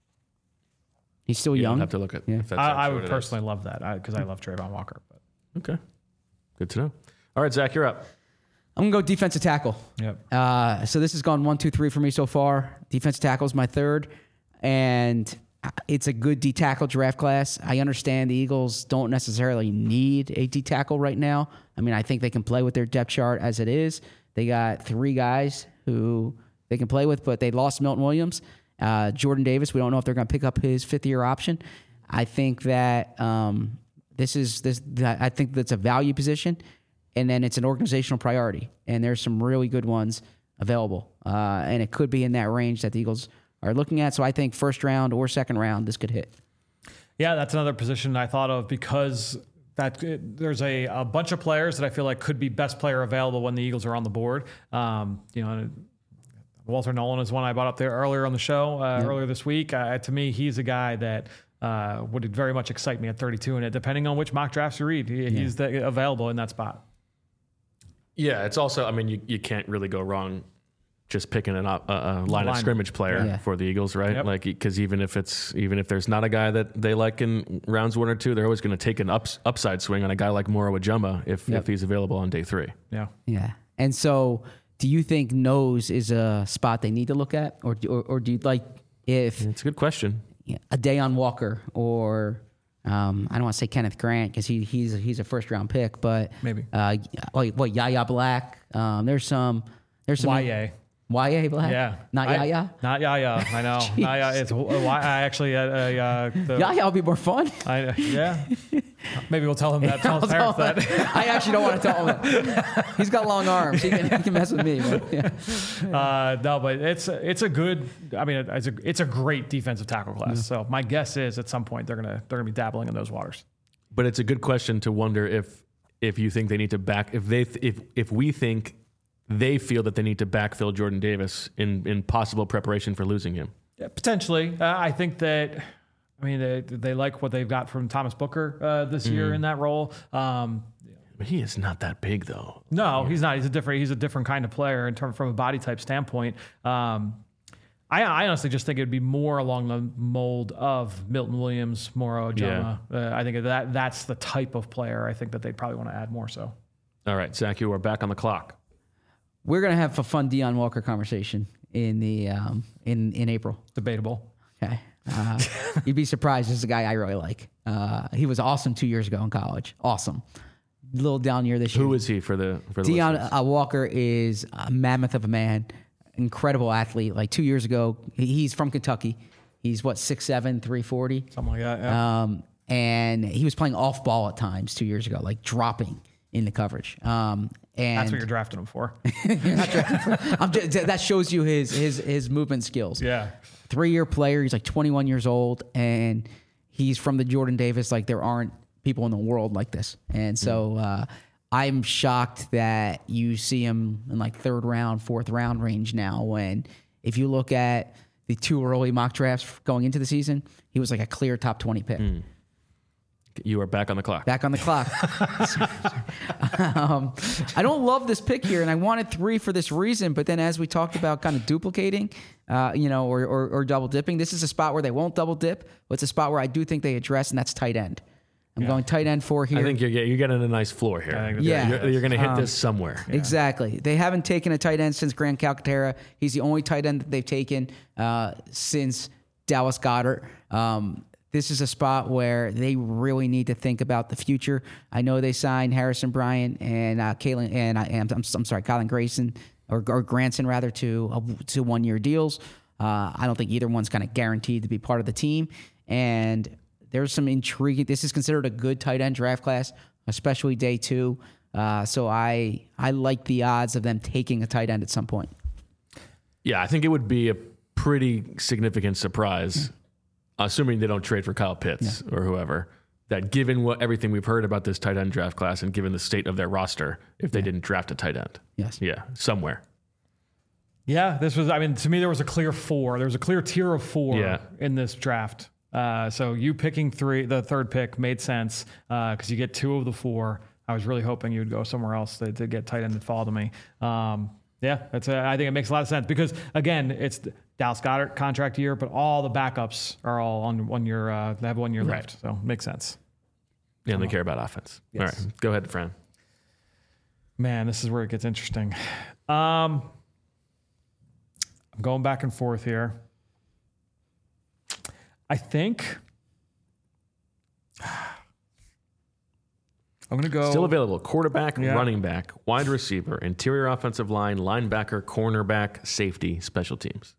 He's still You don't young. have to look at. Yeah. If that's I, I actually would what it is. personally love that because I love Trayvon Walker. But Okay. Good to know. All right, Zach, you're up. I'm gonna go defensive tackle. yep. Uh, so this has gone one, two, three for me so far. Defensive tackle is my third, and it's a good D tackle draft class. I understand the Eagles don't necessarily need a D tackle right now. I mean, I think they can play with their depth chart as it is. They got three guys who they can play with, but they lost Milton Williams, uh, Jordan Davis. We don't know if they're going to pick up his fifth year option. I think that um, this is this. I think that's a value position. And then it's an organizational priority. And there's some really good ones available. Uh, and it could be in that range that the Eagles are looking at. So I think first round or second round, this could hit. Yeah, that's another position I thought of because that there's a, a bunch of players that I feel like could be best player available when the Eagles are on the board. Um, you know, Walter Nolan is one I brought up there earlier on the show uh, Yeah. earlier this week. Uh, to me, he's a guy that uh, would very much excite me at thirty-two, and it depending on which mock drafts you read, he, he's the, available in that spot. Yeah, it's also. I mean, you, you can't really go wrong just picking an op, a, a line, of Line. scrimmage player Yeah. for the Eagles, right? Yep. Like, because even if it's even if there's not a guy that they like in rounds one or two, they're always going to take an ups, upside swing on a guy like Moro Ajumba if Yep. if he's available on day three. Yeah. Yeah. And so do you think nose is a spot they need to look at? Or, or, or do you like if It's a good question. yeah, a Deion Walker or um, I don't want to say Kenneth Grant because he, he's, he's a first round pick, but Maybe. uh, what, what Yaya Black? Um, there's some. There's some. Y A. Y A Black? Yeah. Not I- Yaya? Not Yaya. I know. Not Yaya. It's uh, Y- I actually, uh, uh, the, Yaya will be more fun. I, yeah. Maybe we'll tell him that. Tell his I'll parents tell him. that. I actually don't want to tell him that. He's got long arms. He can, he can mess with me. But yeah. Uh, no, but it's it's a good. I mean, it's a it's a great defensive tackle class. So my guess is at some point they're gonna they're gonna be dabbling in those waters. But it's a good question to wonder if if you think they need to back if they th- if if we think they feel that they need to backfill Jordan Davis in in possible preparation for losing him. Yeah, potentially, uh, I think that. I mean, they they like what they've got from Thomas Booker uh, this year in that role. Um, But he is not that big though. No, he's not. He's a different. He's a different kind of player in terms from a body type standpoint. Um, I, I honestly just think it would be more along the mold of Milton Williams, Moro Ajumma. Uh, I think that that's the type of player I think that they'd probably want to add more. So, All right, Zach, you are back on the clock. We're gonna have a fun Deion Walker conversation in the um, in in April. debatable. Okay, uh, you'd be surprised. This is a guy I really like. Uh, he was awesome two years ago in college. Awesome. A little down year this year. Who is he for the for the Deion listeners? uh, Walker is a mammoth of a man, incredible athlete. Like two years ago, he- he's from Kentucky. He's what six seven, three forty. Something like that. Yeah. Um, and he was playing off ball at times two years ago, like dropping in the coverage. Um, and That's what you're drafting him for. I'm just, that shows you his his his movement skills. yeah. Three year player. He's like twenty-one years old, and he's from the Jordan Davis. Like there aren't people in the world like this, and so uh, I'm shocked that you see him in like third round, fourth round range now. When if you look at the two early mock drafts going into the season, he was like a clear top twenty pick. You are back on the clock. Back on the clock. um, I don't love this pick here, and I wanted three for this reason. But then, as we talked about, kind of duplicating, uh, you know, or, or or double dipping, this is a spot where they won't double dip, but it's a spot where I do think they address, and that's tight end. I'm Yeah. going tight end four here. I think you're get- you're getting a nice floor here. I think that's- Yeah. You're, you're going to hit this somewhere. Exactly. They haven't taken a tight end since Grant Calcaterra. He's the only tight end that they've taken uh, since Dallas Goedert. Um, this is a spot where they really need to think about the future. I know they signed Harrison Bryant and uh, Kalen and I am I'm, I'm sorry, Colin Grayson or, or Granson rather to uh, to one year deals. Uh, I don't think either one's kind of guaranteed to be part of the team. And there's some intrigue. This is considered a good tight end draft class, especially day two. Uh, so I I like the odds of them taking a tight end at some point. Yeah, I think it would be a pretty significant surprise, assuming they don't trade for Kyle Pitts yeah. or whoever, that given what everything we've heard about this tight end draft class and given the state of their roster, if they yeah. didn't draft a tight end. Yes. Yeah, somewhere. Yeah, this was, I mean, to me, there was a clear four. There was a clear tier of four yeah. in this draft. Uh, so you picking three, the third pick made sense because uh, you get two of the four. I was really hoping you would go somewhere else to, to get tight end that fall to me. Um, yeah, that's a, I think it makes a lot of sense because, again, it's the Dallas Goedert contract year, but all the backups are all on one year. Uh, they have one year right. left, so it makes sense. Yeah, and they care about offense. Yes. All right, go ahead, Fran. Man, this is where it gets interesting. Um, I'm going back and forth here. I think I'm going to go. Still available. Quarterback, yeah. running back, wide receiver, interior offensive line, linebacker, cornerback, safety, special teams.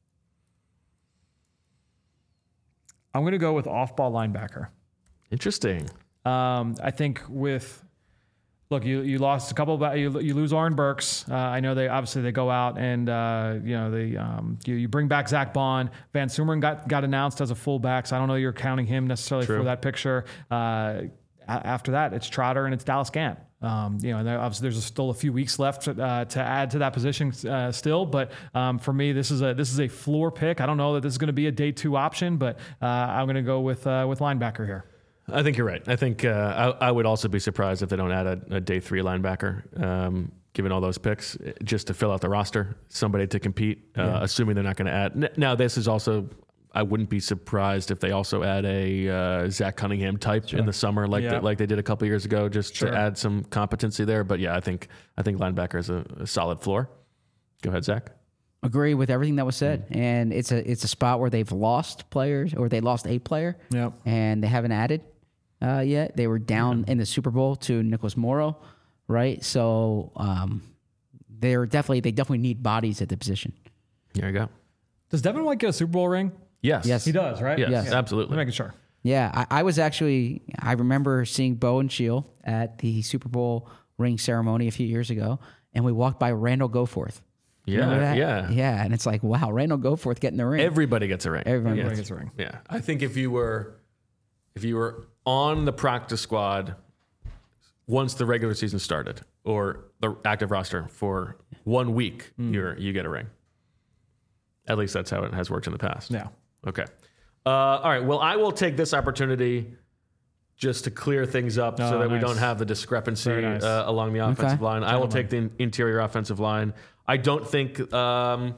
I'm going to go with off-ball linebacker. Interesting. Um, I think with, look, you you lost a couple of, you, you lose Oren Burks. Uh, I know they obviously they go out and uh, you know they um, you, you bring back Zach Bond. Van Sumeren got got announced as a fullback, so I don't know you're counting him necessarily True. for that picture. Uh, after that, it's Trotter and it's Dallas Gant. Um, you know, and obviously there's still a few weeks left uh, to add to that position uh, still, but um, for me, this is a this is a floor pick. I don't know that this is going to be a day two option, but uh, I'm going to go with uh, with linebacker here. I think you're right. I think uh, I, I would also be surprised if they don't add a, a day three linebacker, um, given all those picks, just to fill out the roster, somebody to compete, uh, yeah. assuming they're not going to add. Now, this is also, I wouldn't be surprised if they also add a uh, Zach Cunningham type sure. in the summer, like yeah. the, like they did a couple years ago, just sure. to add some competency there. But yeah, I think I think linebacker is a, a solid floor. Go ahead, Zach. Agree with everything that was said, mm. and it's a it's a spot where they've lost players or they lost a player, yep. and they haven't added. Uh, yet they were down yeah. in the Super Bowl to Nicholas Morrow, right? So um, they're definitely they definitely need bodies at the position. There you go. Does Devin White get a Super Bowl ring? Yes, yes, he does. Right? Yes, yes. absolutely. I'm making sure. Yeah, I, I was actually I remember seeing Bo and Shield at the Super Bowl ring ceremony a few years ago, and we walked by Randall Goforth. Yeah, yeah, yeah, and it's like, wow, Randall Goforth getting the ring. Everybody gets a ring. Everybody, Everybody yes. gets a ring. Yeah, I think if you were, if you were on the practice squad once the regular season started, or the active roster for one week, mm. you're you get a ring. At least that's how it has worked in the past. Yeah. Okay. Uh, all right. Well, I will take this opportunity just to clear things up oh, so that nice. we don't have the discrepancy nice. uh, along the offensive okay. line. Gentlemen. I will take the in- interior offensive line. I don't think. Um,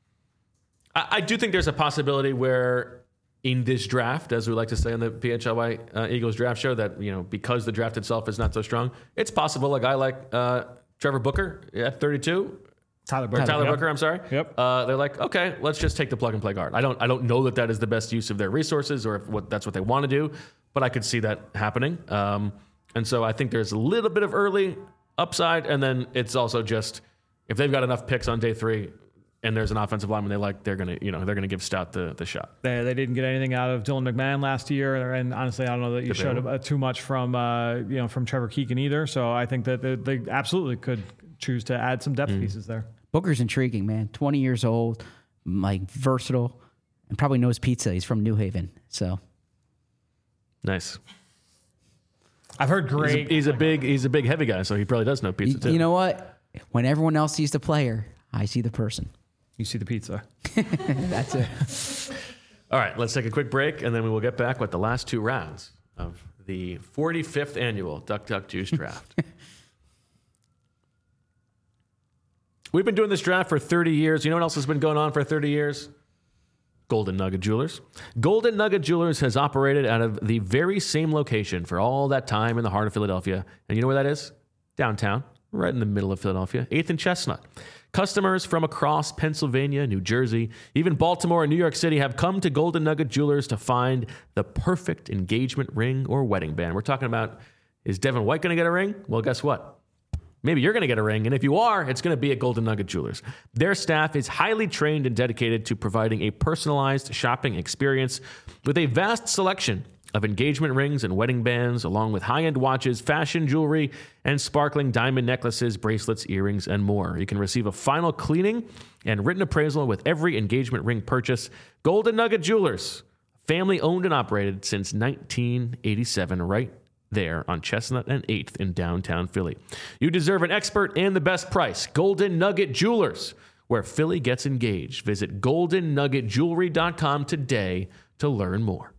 I, I do think there's a possibility where in this draft, as we like to say on the P H L Y uh, Eagles draft show, that you know because the draft itself is not so strong, it's possible a guy like uh, Trevor Booker at thirty-two. Tyler Booker. Tyler yep. Booker, I'm sorry. Yep. Uh, they're like, okay, let's just take the plug and play guard. I don't, I don't know that that is the best use of their resources or if what that's what they want to do, but I could see that happening. Um, and so I think there's a little bit of early upside, and then it's also just if they've got enough picks on day three, and there's an offensive lineman they like, they're gonna, you know, they're gonna give Stout the the shot. They they didn't get anything out of Dylan McMahon last year, and honestly, I don't know that you showed uh, too much from uh, you know from Trevor Keegan either. So I think that they, they absolutely could choose to add some depth mm. pieces there. Booker's intriguing, man. twenty years old, like versatile, and probably knows pizza. He's from New Haven, so nice. I've heard great. He's a, he's a big, he's a big heavy guy, so he probably does know pizza you, too. You know what? When everyone else sees the player, I see the person. You see the pizza. That's it. All right, let's take a quick break, and then we will get back with the last two rounds of the forty-fifth annual Duck Duck Juice Draft. We've been doing this draft for thirty years. You know what else has been going on for thirty years? Golden Nugget Jewelers. Golden Nugget Jewelers has operated out of the very same location for all that time in the heart of Philadelphia. And you know where that is? Downtown, right in the middle of Philadelphia, eighth and Chestnut. Customers from across Pennsylvania, New Jersey, even Baltimore and New York City have come to Golden Nugget Jewelers to find the perfect engagement ring or wedding band. We're talking about, is Devin White going to get a ring? Well, guess what? Maybe you're going to get a ring, and if you are, it's going to be at Golden Nugget Jewelers. Their staff is highly trained and dedicated to providing a personalized shopping experience with a vast selection of engagement rings and wedding bands, along with high-end watches, fashion jewelry, and sparkling diamond necklaces, bracelets, earrings, and more. You can receive a final cleaning and written appraisal with every engagement ring purchase. Golden Nugget Jewelers, family owned and operated since nineteen eighty-seven, right there on Chestnut and eighth in downtown Philly. You deserve an expert and the best price. Golden Nugget Jewelers, where Philly gets engaged. Visit golden nugget jewelry dot com today to learn more.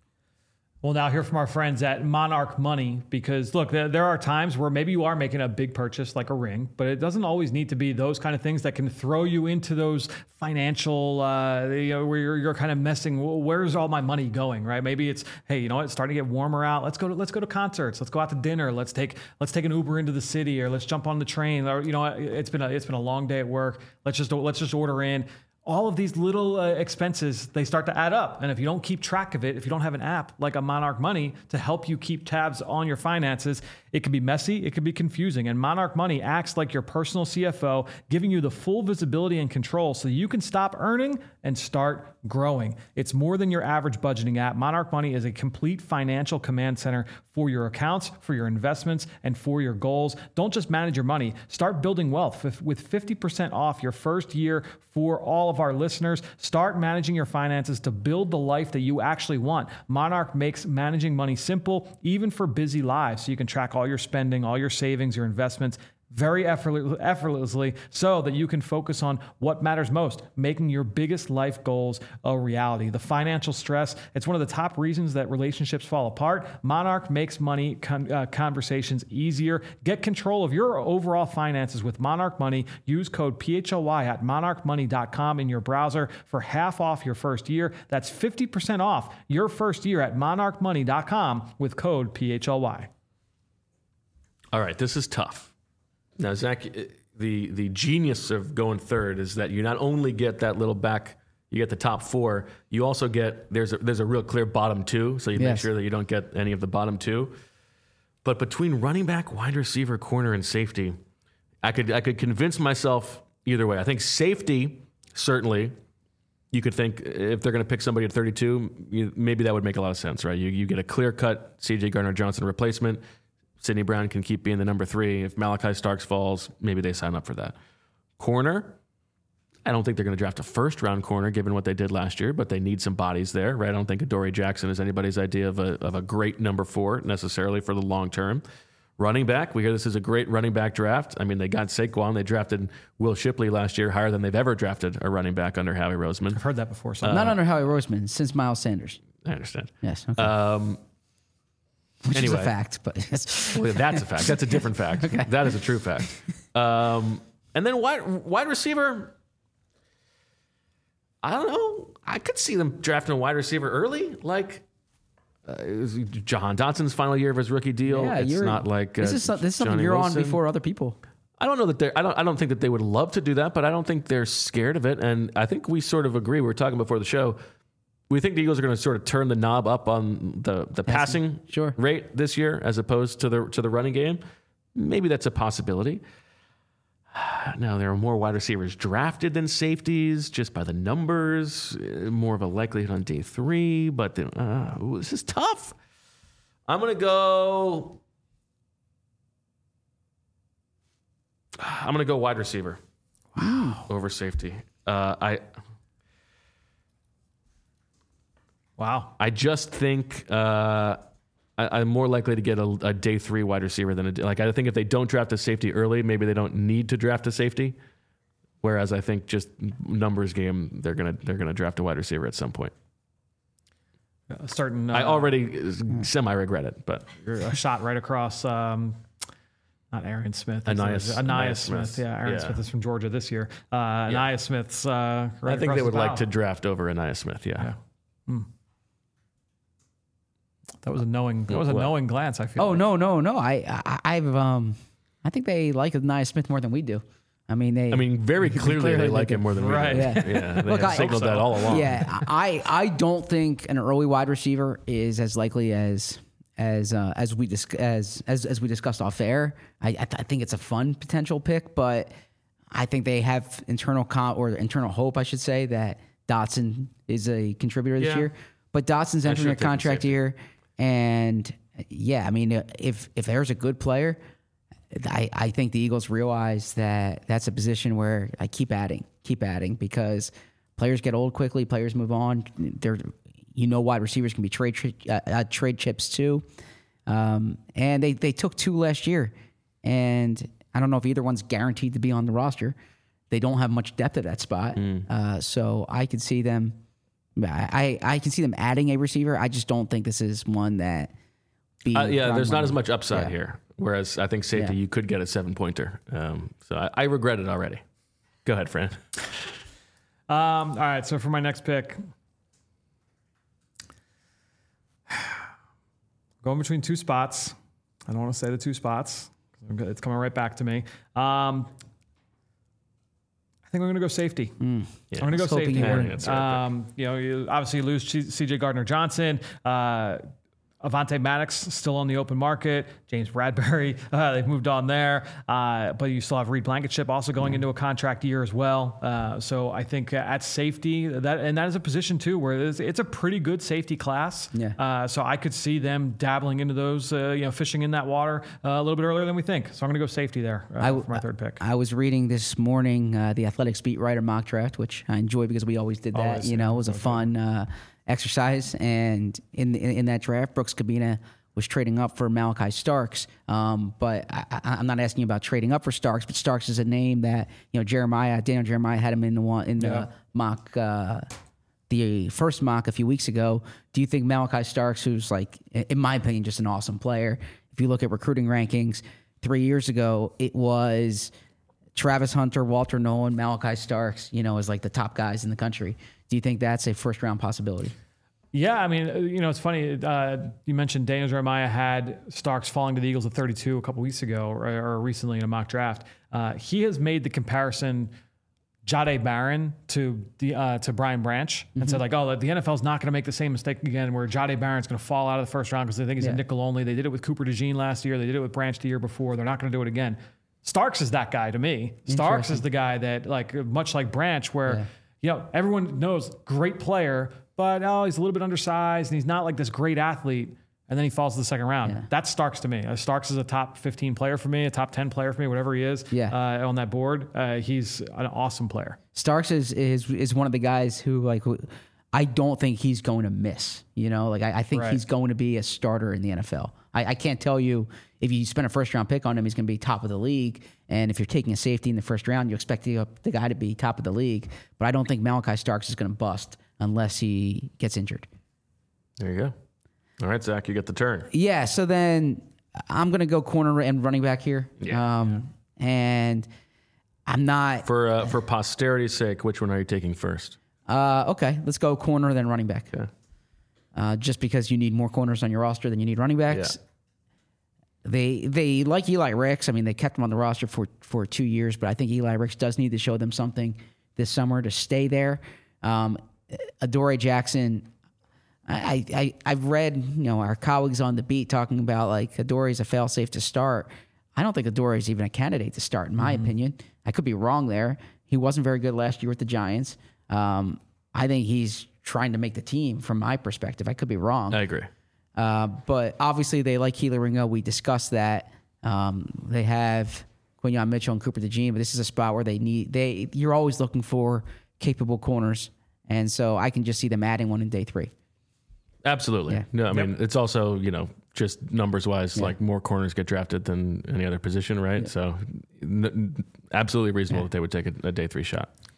We'll now hear from our friends at Monarch Money, because look, there, there are times where maybe you are making a big purchase like a ring, but it doesn't always need to be those kind of things that can throw you into those financial, uh, you know, where you're, you're kind of messing. Well, where's all my money going, right? Maybe it's, hey, you know what, it's starting to get warmer out. Let's go to let's go to concerts. Let's go out to dinner. Let's take let's take an Uber into the city, or let's jump on the train. Or you know, it's been a it's been a long day at work. Let's just let's just order in. All of these little uh, expenses, they start to add up. And if you don't keep track of it, if you don't have an app like a Monarch Money to help you keep tabs on your finances, it can be messy, it can be confusing. And Monarch Money acts like your personal C F O, giving you the full visibility and control so you can stop earning and start growing. It's more than your average budgeting app. Monarch Money is a complete financial command center for your accounts, for your investments, and for your goals. Don't just manage your money. Start building wealth with fifty percent off your first year for all of our listeners. Start managing your finances to build the life that you actually want. Monarch makes managing money simple, even for busy lives, so you can track all your spending, all your savings, your investments very effortlessly, so that you can focus on what matters most, making your biggest life goals a reality. The financial stress, it's one of the top reasons that relationships fall apart. Monarch makes money con- uh, conversations easier. Get control of your overall finances with Monarch Money. Use code P H L Y at monarch money dot com in your browser for half off your first year. That's fifty percent off your first year at monarch money dot com with code P H L Y. All right, this is tough. Now, Zach, the the genius of going third is that you not only get that little back, you get the top four, you also get, there's a, there's a real clear bottom two, so you yes. make sure that you don't get any of the bottom two. But between running back, wide receiver, corner, and safety, I could I could convince myself either way. I think safety, certainly, you could think if they're going to pick somebody at thirty-two, you, maybe that would make a lot of sense, right? You, you get a clear-cut C J Gardner-Johnson replacement. Sidney Brown can keep being the number three. If Malachi Starks falls, maybe they sign up for that. Corner, I don't think they're going to draft a first-round corner given what they did last year, but they need some bodies there, right? I don't think Adoree Jackson is anybody's idea of a, of a great number four necessarily for the long term. Running back, we hear this is a great running back draft. I mean, they got Saquon. They drafted Will Shipley last year higher than they've ever drafted a running back under Howie Roseman. I've heard that before. So. Uh, Not under Howie Roseman, since Miles Sanders. I understand. Yes. Okay. Um, Which anyway, is a fact, but yes. Well, that's a fact. That's a different fact. Okay. That is a true fact. Um, and then wide, wide receiver, I don't know. I could see them drafting a wide receiver early, like uh, Jahan Dotson's final year of his rookie deal. Yeah, it's not like uh, this is some, this is something Johnny you're Wilson. on before other people. I don't know that they're. I don't. I don't think that they would love to do that, but I don't think they're scared of it. And I think we sort of agree. We were talking before the show. We think the Eagles are going to sort of turn the knob up on the, the passing sure. rate this year as opposed to the to the running game. Maybe that's a possibility. Now, there are more wide receivers drafted than safeties just by the numbers. More of a likelihood on day three, but the, uh, ooh, this is tough. I'm going to go... I'm going to go wide receiver. Wow. Over safety. Uh, I... Wow. I just think uh, I, I'm more likely to get a, a day three wide receiver than a like. I think if they don't draft a safety early, maybe they don't need to draft a safety. Whereas I think just numbers game, they're gonna they're gonna draft a wide receiver at some point. Uh, starting. Uh, I already semi regret it, but a shot right across. Um, Not Aaron Smith. Anias, Anias Smith. Smith. Yeah, Aaron yeah. Smith is from Georgia this year. Uh, yeah. Anias Smith's. Uh, right I think they would the like to draft over Anias Smith. Yeah. yeah. Hmm. That was a knowing. That was a what? knowing glance. I feel. Oh like. no, no, no. I, I, I've, um, I think they like Nia Smith more than we do. I mean, they. I mean, very clearly, clearly they like they him more than we Right. do. Yeah. Yeah, they Look, have I- signaled so. that all along. Yeah, I, I don't think an early wide receiver is as likely as as uh, as we dis- as as as we discussed off air. I I, th- I think it's a fun potential pick, but I think they have internal con- or internal hope, I should say, that Dotson is a contributor this Yeah. year. But Dotson's I entering should've a taken contract safety. year, and yeah, I mean, if if there's a good player, I, I think the Eagles realize that that's a position where I keep adding, keep adding, because players get old quickly, players move on. They're, you know, wide receivers can be trade uh, uh, trade chips too, um, and they they took two last year, and I don't know if either one's guaranteed to be on the roster. They don't have much depth at that spot, Mm. uh, so I could see them. I, I I can see them adding a receiver. I just don't think this is one that. Be Uh, yeah, ground there's not running. as much upside Yeah. here. Whereas I think safety, Yeah. you could get a seven pointer. Um, so I, I regret it already. Go ahead, Fran. Um, all right. So for my next pick, going between two spots. I don't want to say the two spots. It's coming right back to me. Um, I think I'm going to go safety. Yeah. I'm going to go was hoping safety you here. were. That's right. Um, you know, you obviously lose C J Gardner Johnson. Uh, Avonte Maddox still on the open market. James Bradbury, uh, they've moved on there. Uh, but you still have Reed Blankenship also going into a contract year as well. Uh, so I think at safety, that and that is a position too where it's, it's a pretty good safety class. Yeah. Uh, so I could see them dabbling into those, uh, you know, fishing in that water uh, a little bit earlier than we think. So I'm going to go safety there uh, I w- for my third pick. I was reading this morning uh, the Athletics beat writer mock draft, which I enjoy because we always did that. Always, you know, yeah, it was a okay. fun uh, exercise. And in, in in that draft, Brooks Cabina was trading up for Malachi Starks. Um, but I, I, I'm not asking you about trading up for Starks, but Starks is a name that you know Jeremiah Daniel Jeremiah had him in the one in the Yeah. mock. Uh, the first mock a few weeks ago. Do you think Malachi Starks, who's like, in my opinion, just an awesome player, if you look at recruiting rankings, three years ago, it was Travis Hunter, Walter Nolan, Malachi Starks, you know, as like the top guys in the country. Do you think that's a first round possibility? Yeah, I mean, uh, you know, it's funny. Uh, you mentioned Daniel Jeremiah had Starks falling to the Eagles at thirty-two a couple weeks ago, or, or recently in a mock draft. Uh, he has made the comparison Jahdae Barron to the uh, to Brian Branch and said like, oh, the N F L is not going to make the same mistake again, where Jahdae Barron's going to fall out of the first round because they think he's Yeah. a nickel only. They did it with Cooper DeJean last year. They did it with Branch the year before. They're not going to do it again. Starks is that guy to me. Starks is the guy that, like, much like Branch, where Yeah. you know everyone knows great player, but oh, he's a little bit undersized and he's not like this great athlete. And then he falls to the second round. Yeah. That's Starks to me. Uh, Starks is a top fifteen player for me, a top ten player for me, whatever he is. Yeah. Uh, on that board, uh, he's an awesome player. Starks is is is one of the guys who like who, I don't think he's going to miss. You know, like I, I think Right. he's going to be a starter in the N F L. I, I can't tell you if you spend a first round pick on him, he's going to be top of the league. And if you're taking a safety in the first round, you expect the, the guy to be top of the league. But I don't think Malachi Starks is going to bust unless he gets injured. There you go. All right, Zach, you get the turn. Yeah. So then I'm going to go corner and running back here. Yeah. Um, and I'm not. For uh, for posterity's sake, which one are you taking first? Uh, okay, let's go corner then running back. Okay. Uh, just because you need more corners on your roster than you need running backs. They they like Eli Ricks. I mean, they kept him on the roster for, for two years, but I think Eli Ricks does need to show them something this summer to stay there. Um, Adoree Jackson, I, I I've read you know our colleagues on the beat talking about like Adoree's a fail-safe to start. I don't think Adoree is even a candidate to start, in my opinion. I could be wrong there. He wasn't very good last year with the Giants. Um, I think he's trying to make the team from my perspective. I could be wrong. I agree. Uh, but obviously they like Keeler Ringo. We discussed that. Um, they have Quinyon Mitchell and Cooper DeJean, but this is a spot where they need they. You're always looking for capable corners, and so I can just see them adding one in day three. Absolutely. Yeah. No, I mean, it's also, you know, just numbers wise, like more corners get drafted than any other position, right? So n- n- absolutely reasonable that they would take a, a day three shot.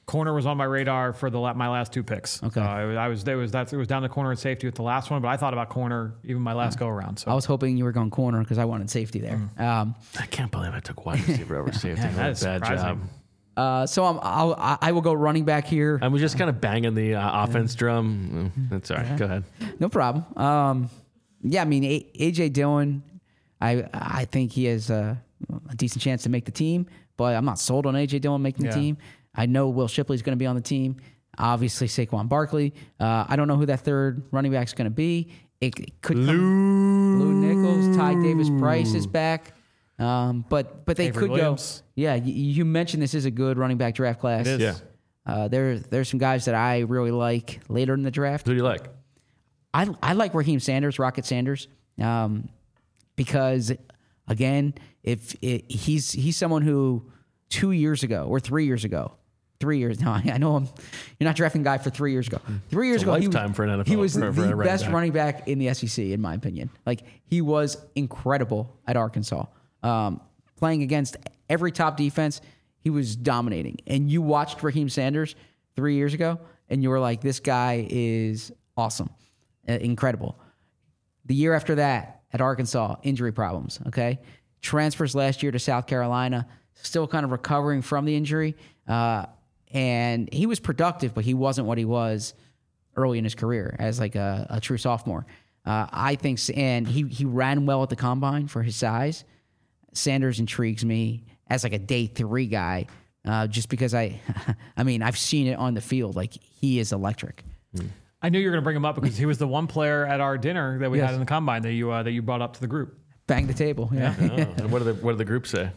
Corner was on my radar for the la- my last two picks. Okay. Uh, I was there was that's it was down the corner and safety with the last one, but I thought about corner even my last go around. So I was hoping you were going corner because I wanted safety there. Mm. Um, I can't believe I took wide receiver over safety. Man, that What a is bad surprising. job. uh, so I'm, I'll, I I will go running back here. I was just kind of banging the uh, offense drum. Mm, That's all right. Go ahead. No problem. Um, yeah, I mean A- AJ Dillon, I I think he has a, a decent chance to make the team, but I'm not sold on A J Dillon making the Yeah. team. I know Will Shipley's going to be on the team. Obviously Saquon Barkley. Uh, I don't know who that third running back is going to be. It, it could come, Lou Nichols, Ty Davis Price is back. Um, but but they Avery could Williams. go. Yeah, you, you mentioned this is a good running back draft class. It is. Yeah. Uh, there there's some guys that I really like later in the draft. Who do you like? I I like Raheem Sanders, Rocket Sanders, um, because again, if it, he's he's someone who two years ago or three years ago, three years now, I know I'm, you're not drafting a guy for three years ago. Three years It's a ago, he was, lifetime for an N F L he was for- for a the running best back. running back in the S E C, in my opinion. Like he was incredible at Arkansas, um, playing against every top defense. He was dominating, and you watched Raheem Sanders three years ago, and you were like, "This guy is awesome, uh, incredible." The year after that, at Arkansas, injury problems. Okay, transfers last year to South Carolina, still kind of recovering from the injury, uh, and he was productive, but he wasn't what he was early in his career as like a, a true sophomore. Uh, I think, and he he ran well at the combine for his size. Sanders intrigues me as like a day three guy, uh, just because I, I mean, I've seen it on the field. Like he is electric. I knew you were going to bring him up because he was the one player at our dinner that we Yes. had in the combine that you uh, that you brought up to the group. Bang the table. Yeah. Oh, and what do the what do the group say?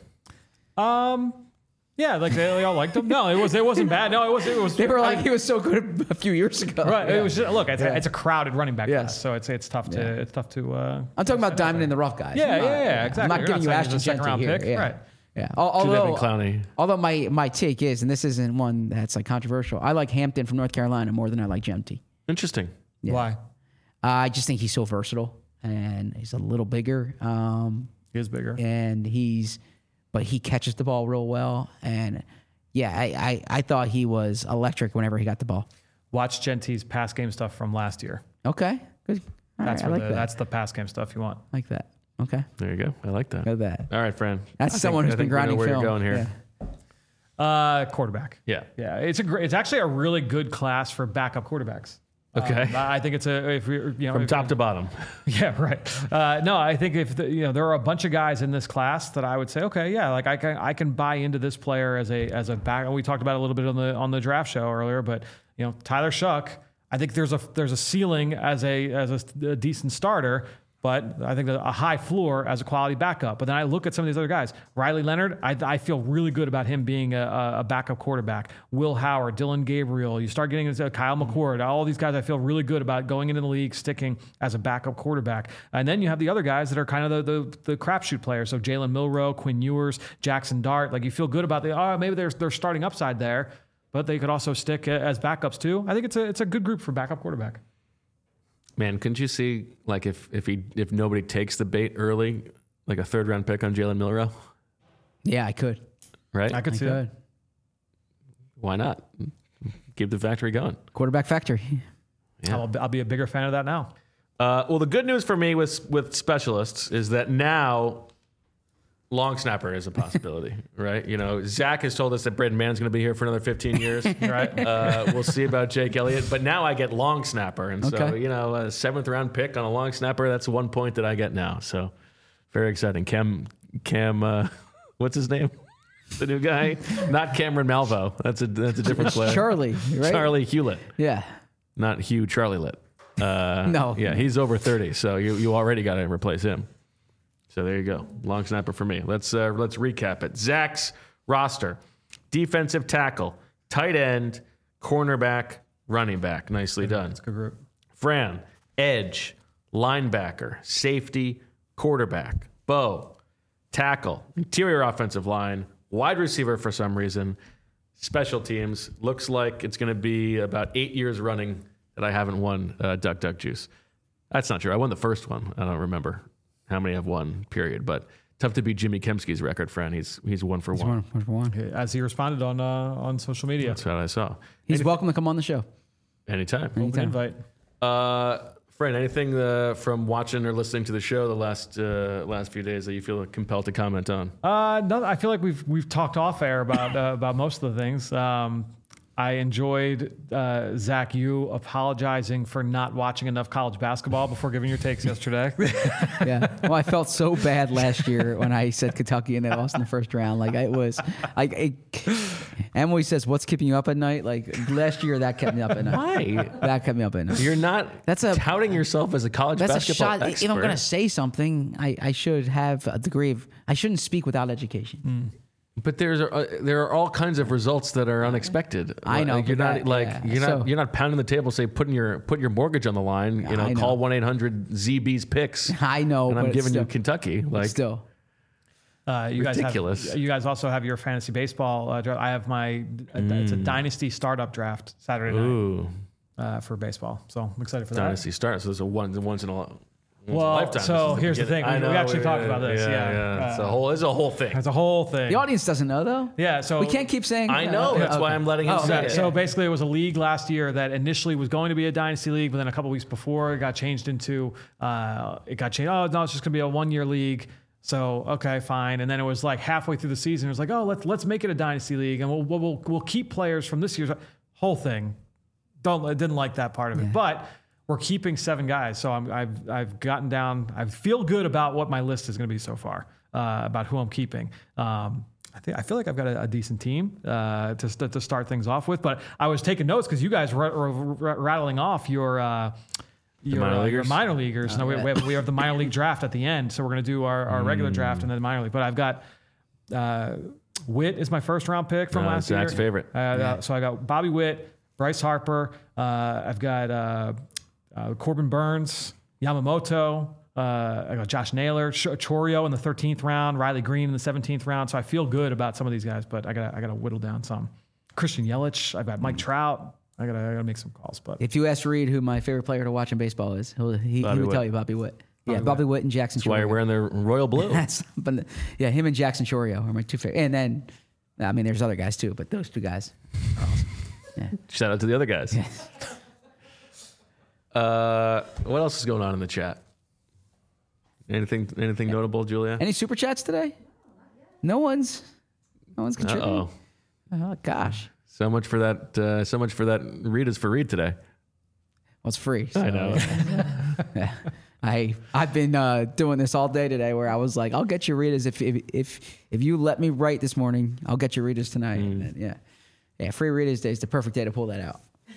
Um, yeah, like they, they all liked him. No, it was it wasn't bad. No, it was it was. They were like, he was so good a few years ago. right. Yeah. It was just, look, it's, a, it's a crowded running back Yes. class, so it's it's tough to Yeah. it's tough to. Uh, I'm talking about diamond in the rough guys. Yeah, I'm not- yeah, yeah, exactly. I'm not You're giving not you saying he's a Ashton second round here. pick, Yeah. right. Yeah. Al- Too Although, Clowney. although my, my take is, and this isn't one that's like controversial, I like Hampton from North Carolina more than I like Jemty. Interesting. Yeah. Why? Uh, I just think he's so versatile and he's a little bigger. Um, He is bigger. and he's, but he catches the ball real well. And yeah, I, I, I thought he was electric whenever he got the ball. Watch Genty's pass game stuff from last year. Okay. Good. All That's right, I where like the, that. that's the pass game stuff you want. like that. Okay. There you go. I like that. Got that. All right, Fran. That's I someone think- who's I been think we know grinding where film. you're going here. Yeah. Uh, quarterback. Yeah. Yeah, it's a great. It's actually a really good class for backup quarterbacks. Okay. Um, I think it's a if we you know From if- top to bottom. Yeah, right. Uh, no, I think if the, you know there are a bunch of guys in this class that I would say, okay, yeah, like I can I can buy into this player as a as a back. We talked about it a little bit on the on the draft show earlier, but you know Tyler Shuck, I think there's a there's a ceiling as a as a, a decent starter. But I think that a high floor as a quality backup. But then I look at some of these other guys. Riley Leonard, I, I feel really good about him being a, a backup quarterback. Will Howard, Dylan Gabriel, you start getting into Kyle McCord, all these guys I feel really good about going into the league, sticking as a backup quarterback. And then you have the other guys that are kind of the the, the crapshoot players. So Jalen Milroe, Quinn Ewers, Jackson Dart. Like you feel good about the, oh, maybe there's they're starting upside there, but they could also stick as backups too. I think it's a it's a good group for backup quarterback. Man, couldn't you see like if if he if nobody takes the bait early, like a third round pick on Jalen Milroe, Yeah, I could. right? I could I see could. that. Why not? Keep the factory going. Quarterback factory. Yeah. I'll, I'll be a bigger fan of that now. Uh, well, the good news for me with with specialists is that now long snapper is a possibility, right? You know, Zach has told us that Braden Mann's going to be here for another fifteen years, right? Uh, we'll see about Jake Elliott, but now I get long snapper, and so Okay. you know, a seventh round pick on a long snapper, that's one point that I get now. So very exciting. Cam, Cam, uh, what's his name? The new guy, not Cameron Malvo. That's a that's a different player. Charlie, right? Charlie Hewlett, Yeah. not Hugh Charlie Lit. Uh, No. yeah, he's over thirty, so you you already got to replace him. So there you go, long snapper for me. Let's uh, let's recap it. Zach's roster: defensive tackle, tight end, cornerback, running back. Nicely done. It's a good group. Fran, edge, linebacker, safety, quarterback. Bo, tackle, interior offensive line, wide receiver for some reason, special teams. Looks like it's going to be about eight years running that I haven't won uh, Duck Duck Juice. That's not true. I won the first one. I don't remember how many I've won, period. But Tough to beat Jimmy Kempski's record, friend. He's he's one for He's one. one, one for one. As he responded on uh, on social media. That's what I saw. He's Any- welcome to come on the show. anytime. Open invite. Uh, Fran, anything uh, from watching or listening to the show the last uh, last few days that you feel compelled to comment on? Uh, no, I feel like we've we've talked off air about uh, about most of the things. Um, I enjoyed uh, Zach, you apologizing for not watching enough college basketball before giving your takes yesterday. Yeah. Well, I felt so bad last year when I said Kentucky and they lost in the first round. Like it was, like it, Emily says, "What's keeping you up at night?" Like last year, that kept me up at night. Why? That kept me up at night. You're not That's a- touting yourself as a college That's a basketball shot. expert. If I'm going to say something, I, I should have a degree of. I shouldn't speak without education. But there's uh, there are all kinds of results that are unexpected. I know, Like, you're but not that- like yeah. you're not So- you're not pounding the table, say putting your putting your mortgage on the line. You know, I know. call one eight hundred Z B's picks. I know, and but I'm it's giving still, you Kentucky. Like still. Uh, you Ridiculous. guys have, you guys also have your fantasy baseball uh, draft. I have my it's a dynasty startup draft Saturday night ooh, uh, for baseball. So I'm excited for that. dynasty starts. So there's a one once in a once in a Well, lifetime. so This is here's the beginning. thing. I We- we know, actually talked about this, yeah. it's Uh, a whole it's a whole thing. It's a whole thing. The audience doesn't know though. Yeah, so We can't keep saying. I know. uh, That's okay. why I'm letting him Oh, say okay. it. So basically, it was a league last year that initially was going to be a dynasty league, but then a couple weeks before, it got changed into uh, it got changed. Oh no, it's just going to be a one-year league. So okay, fine. And then it was like halfway through the season, it was like, oh, let's let's make it a dynasty league, and we'll we'll we'll, we'll keep players from this year's whole thing. Don't I didn't like that part of it, but we're keeping seven guys. So I'm, I've I've gotten down. I feel good about what my list is going to be so far, uh, about who I'm keeping. Um, I think I feel like I've got a, a decent team uh, to st- to start things off with. But I was taking notes because you guys were, were r- rattling off your. Uh, Your minor uh, your leaguers? minor leaguers. no, we, we, have, we have the minor league draft at the end, so we're going to do our, our regular draft and then the minor league. But I've got uh, Witt is my first round pick from Uh, last Zach's year. favorite. Uh, uh, so I got Bobby Witt, Bryce Harper. Uh, I've got uh, uh, Corbin Burns, Yamamoto. Uh, I got Josh Naylor, Ch- Chorio in the thirteenth round, Riley Green in the seventeenth round. So I feel good about some of these guys, but I got I got to whittle down some. Christian Yelich. I've got Mike Trout. I gotta, I gotta make some calls, but If you ask Reed who my favorite player to watch in baseball is, he'll, he, he Bobby would Witt. tell you Bobby Witt. Yeah, Bobby Witt and Jackson. That's why you're wearing the royal blue. That's but yeah, him and Jackson Chorio are my two favorite. And then, I mean, there's other guys too, but those two guys are awesome. Yeah. Shout out to the other guys. Uh, what else is going on in the chat? Anything anything notable, Julia? Any super chats today? No one's, no one's Uh contributing. oh. Oh gosh, So much for that. Uh, so much for that. Read is for read today. well, it's free. So, I know. yeah. I I've been uh, doing this all day today, where I was like, I'll get your readers if if if if you let me write this morning, I'll get your readers tonight. Mm. And then, yeah, yeah, free readers day is the perfect day to pull that out.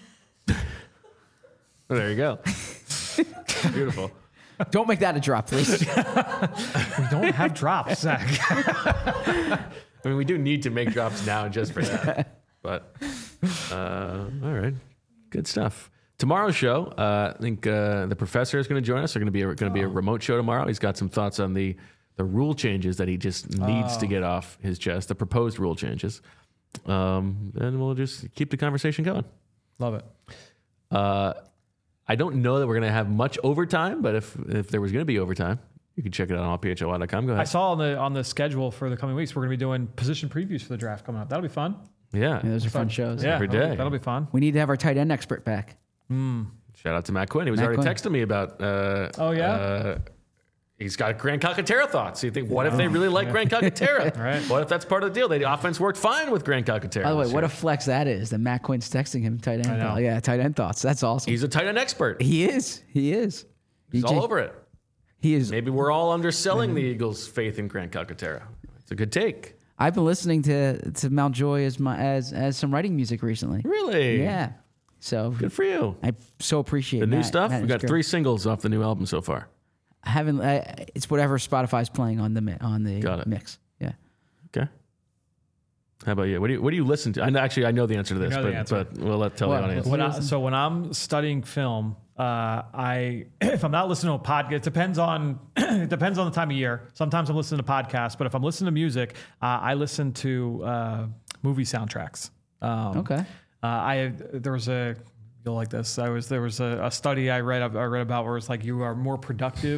There you go. Beautiful. Don't make that a drop, please. we don't have drops, Zach. I mean, we do need to make drops now just for that. But uh, all right, good stuff. Tomorrow's show, uh, I think uh, the professor is going to join us. They're going to be going to be a remote show tomorrow. He's got some thoughts on the the rule changes that he just needs to get off his chest, the proposed rule changes, um, and we'll just keep the conversation going. Love it. Uh, I don't know that we're going to have much overtime, but if if there was going to be overtime, you can check it out on all p h l y dot com. Go I ahead. saw on the on the schedule for the coming weeks, we're going to be doing position previews for the draft coming up. That'll be fun. Yeah. Yeah, those are fun shows. Yeah, Every that'll be- day. That'll be fun. We need to have our tight end expert back. Shout out to Matt Quinn. He was Matt already Quinn. texting me about. Uh, Oh, yeah? Uh, he's got Grand Calcaterra thoughts. So you think, what if they really like Grand Calcaterra? Right. What if that's part of the deal? The offense worked fine with Grand Calcaterra. By the way, this what year. a flex that is that Matt Quinn's texting him tight end. I know. thoughts. Yeah, tight end thoughts. That's awesome. He's a tight end expert. he is. He is. He's He all just- over it. He is. Maybe we're all underselling the Eagles' faith in Grand Calcaterra. It's a good take. I've been listening to to Mountjoy as my as as some writing music recently. Really? Yeah. So Good for you. I so appreciate The new Matt. stuff. Matt We is got great. three singles off the new album so far. I haven't. I, it's whatever Spotify's playing on the mi- on the Got it. mix. Yeah. Okay. How about you? What do you What do you listen to? I know, actually I know the answer to this, know the but answer. but we'll let tell What? the audience. When I, so when I'm studying film, uh, I if I'm not listening to a podcast, it depends on it depends on the time of year. Sometimes I'm listening to podcasts, but if I'm listening to music, uh, I listen to uh, movie soundtracks. Um, Okay. Uh, I there was a you'll like this. I was there was a, a study I read I read about where it's like you are more productive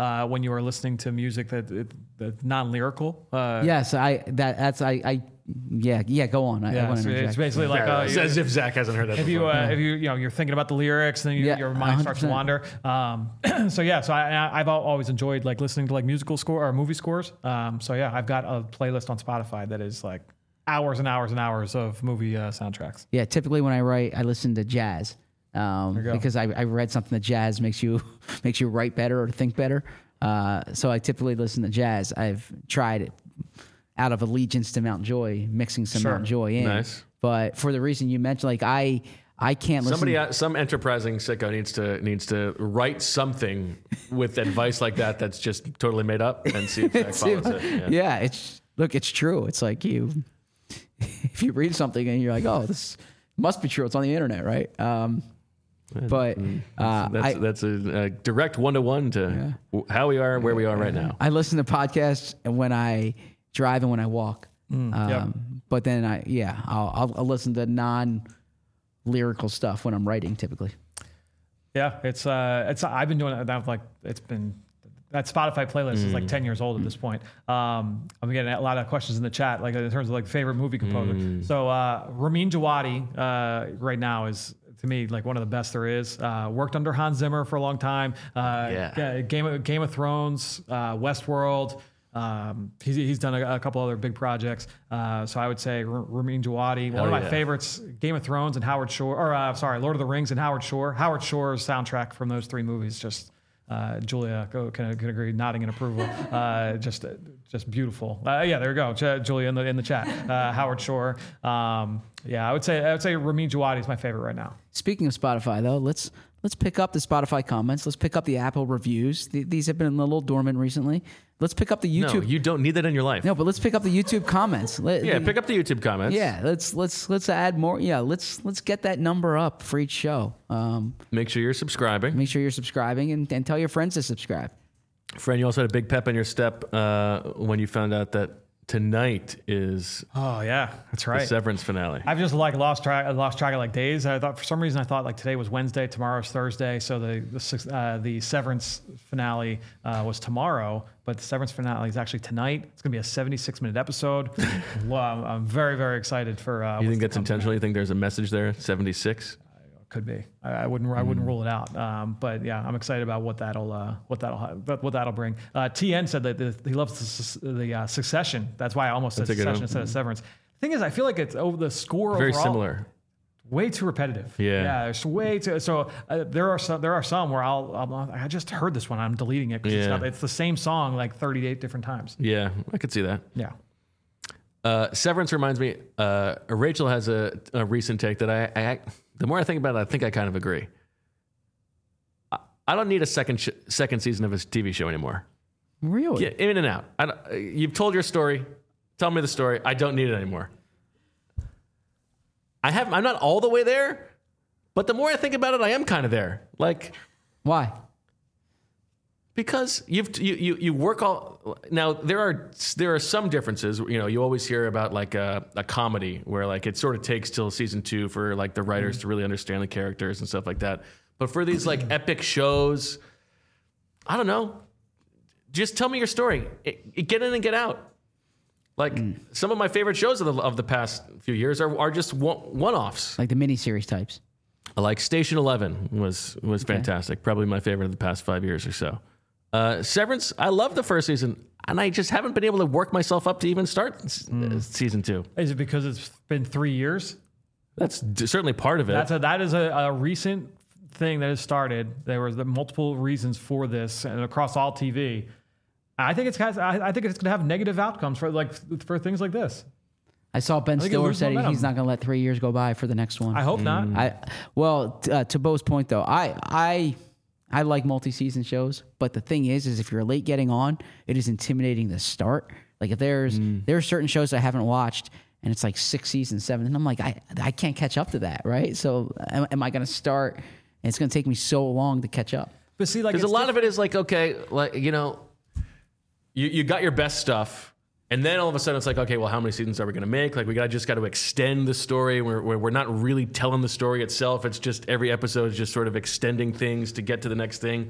uh, when you are listening to music that that's non-lyrical. Uh, Yes, I that that's I I yeah yeah go on. I, I yeah, want so to it's basically like uh, It's as if Zach hasn't heard that if you before. uh, if you you know you're thinking about the lyrics, and then you, Yeah, your mind starts to one hundred wander. Um, so yeah, so I, I- I've al- always enjoyed like listening to like musical score or movie scores. Um, so yeah, I've got a playlist on Spotify that is like hours and hours and hours of movie uh, soundtracks. Yeah, typically when I write, I listen to jazz um, you go. because I, I read something that jazz makes you makes you write better or think better. Uh, so I typically listen to jazz. I've tried it out of allegiance to Mount Joy, mixing some Sure. Mount Joy in. Nice. But for the reason you mentioned, like I I can't listen. Somebody, uh, some enterprising sicko needs to needs to write something with advice like that that's just totally made up and see if Zach See, follows it. Yeah. yeah, it's look, it's true. It's like you if you read something and you're like, oh, this must be true. It's on the internet, right? Um, but uh, That's I, that's a, a direct one to one to w how we are, where we are right now. I listen to podcasts when I drive and when I walk. um, yep. But then I, yeah, I'll, I'll, I'll listen to non lyrical stuff when I'm writing typically. Yeah, it's uh, it's I've been doing that like it's been that Spotify playlist is like ten years old at this point. Um, I'm getting a lot of questions in the chat, like in terms of like favorite movie composer. So uh, Ramin Djawadi uh, right now is to me like one of the best there is. Uh, worked under Hans Zimmer for a long time. Uh, Yeah. Game of Game of Thrones, uh, Westworld. Um, he's, he's done a, a couple other big projects. Uh, so I would say R- Ramin Djawadi, one Hell of my yeah. favorites, Game of Thrones and Howard Shore, or uh, sorry, Lord of the Rings and Howard Shore. Howard Shore's soundtrack from those three movies, just uh, Julia go, can, can agree, nodding in approval. Uh, just just beautiful. Uh, yeah, there you go, J- Julia in the in the chat. Uh, Howard Shore. Um, yeah, I would say I would say Ramin Djawadi is my favorite right now. Speaking of Spotify, though, let's let's pick up the Spotify comments. Let's pick up the Apple reviews. Th- these have been a little dormant recently. Let's pick up the No, YouTube. you don't need that in your life. No, but let's pick up the YouTube comments. Let, Yeah, pick up the YouTube comments. Yeah, let's let's let's add more. Yeah, let's let's get that number up for each show. Um, Make sure you're subscribing. make sure you're subscribing and, and tell your friends to subscribe. Friend, you also had a big pep in your step uh, when you found out that tonight is Oh yeah, that's the right. Severance finale. I've just like lost track. I lost track of like days. I thought for some reason I thought like today was Wednesday, tomorrow's Thursday. So the the, six- uh, the Severance finale uh, was tomorrow, but the Severance finale is actually tonight. It's gonna be a seventy-six minute episode. Well, I'm, I'm very very excited for. Uh, You what's think to that's come. intentional? You think there's a message there? seventy-six? Could be. I, I wouldn't. I wouldn't rule it out. Um, but yeah, I'm excited about what that'll uh, what that'll ha- what what that'll bring. Uh, T N said that the, he loves the, sus- the uh, Succession. That's why I almost said That's a good Succession one. instead of Severance. The thing is, I feel like it's over the score. Very overall, similar. Way too repetitive. Yeah. Yeah. It's way too. So uh, there are some. There are some where I'll. I'll I just heard this one. I'm deleting it because Yeah. it's, it's the same song like thirty-eight different times. Yeah, I could see that. Yeah. Uh, Severance reminds me. Uh, Rachel has a, a recent take that I, I. The more I think about it, I think I kind of agree. I, I don't need a second sh- second season of a T V show anymore. Really? Get in and out. I don't, uh, you've told your story. Tell me the story. I don't need it anymore. I have. I'm not all the way there, but the more I think about it, I am kind of there. Like. Why? Because you've you, you you work all now. There are there are some differences. You know, you always hear about like a, a comedy where like it sort of takes till season two for like the writers to really understand the characters and stuff like that. But for these like epic shows, I don't know. Just tell me your story. It, it, get in and get out. Like some of my favorite shows of the of the past few years are are just one one offs. Like the miniseries types. Like Station Eleven was was fantastic. Probably my favorite of the past five years or so. Uh, Severance, I love the first season, and I just haven't been able to work myself up to even start s- uh, season two. Is it because it's been three years? That's d- certainly part of it. That's a, that is a, a recent thing that has started. There was the multiple reasons for this, and across all T V. I think it's has, I, I think it's going to have negative outcomes for like for things like this. I saw Ben think it Stiller loses said he- momentum. he's not going to let three years go by for the next one. I hope not. I well, t- uh, to Bo's point though, I I I like multi-season shows, but the thing is, is if you're late getting on, it is intimidating to start. Like if there's there are certain shows I haven't watched, and it's like six seasons, seven, and I'm like, I I can't catch up to that, right? So am, am I going to start? And it's going to take me so long to catch up. But see, like Because a it's lot of it is like, okay, like you know, you you got your best stuff, and then all of a sudden it's like, okay, well, how many seasons are we going to make? Like we got just got to extend the story. We're we're we're not really telling the story itself. It's just every episode is just sort of extending things to get to the next thing.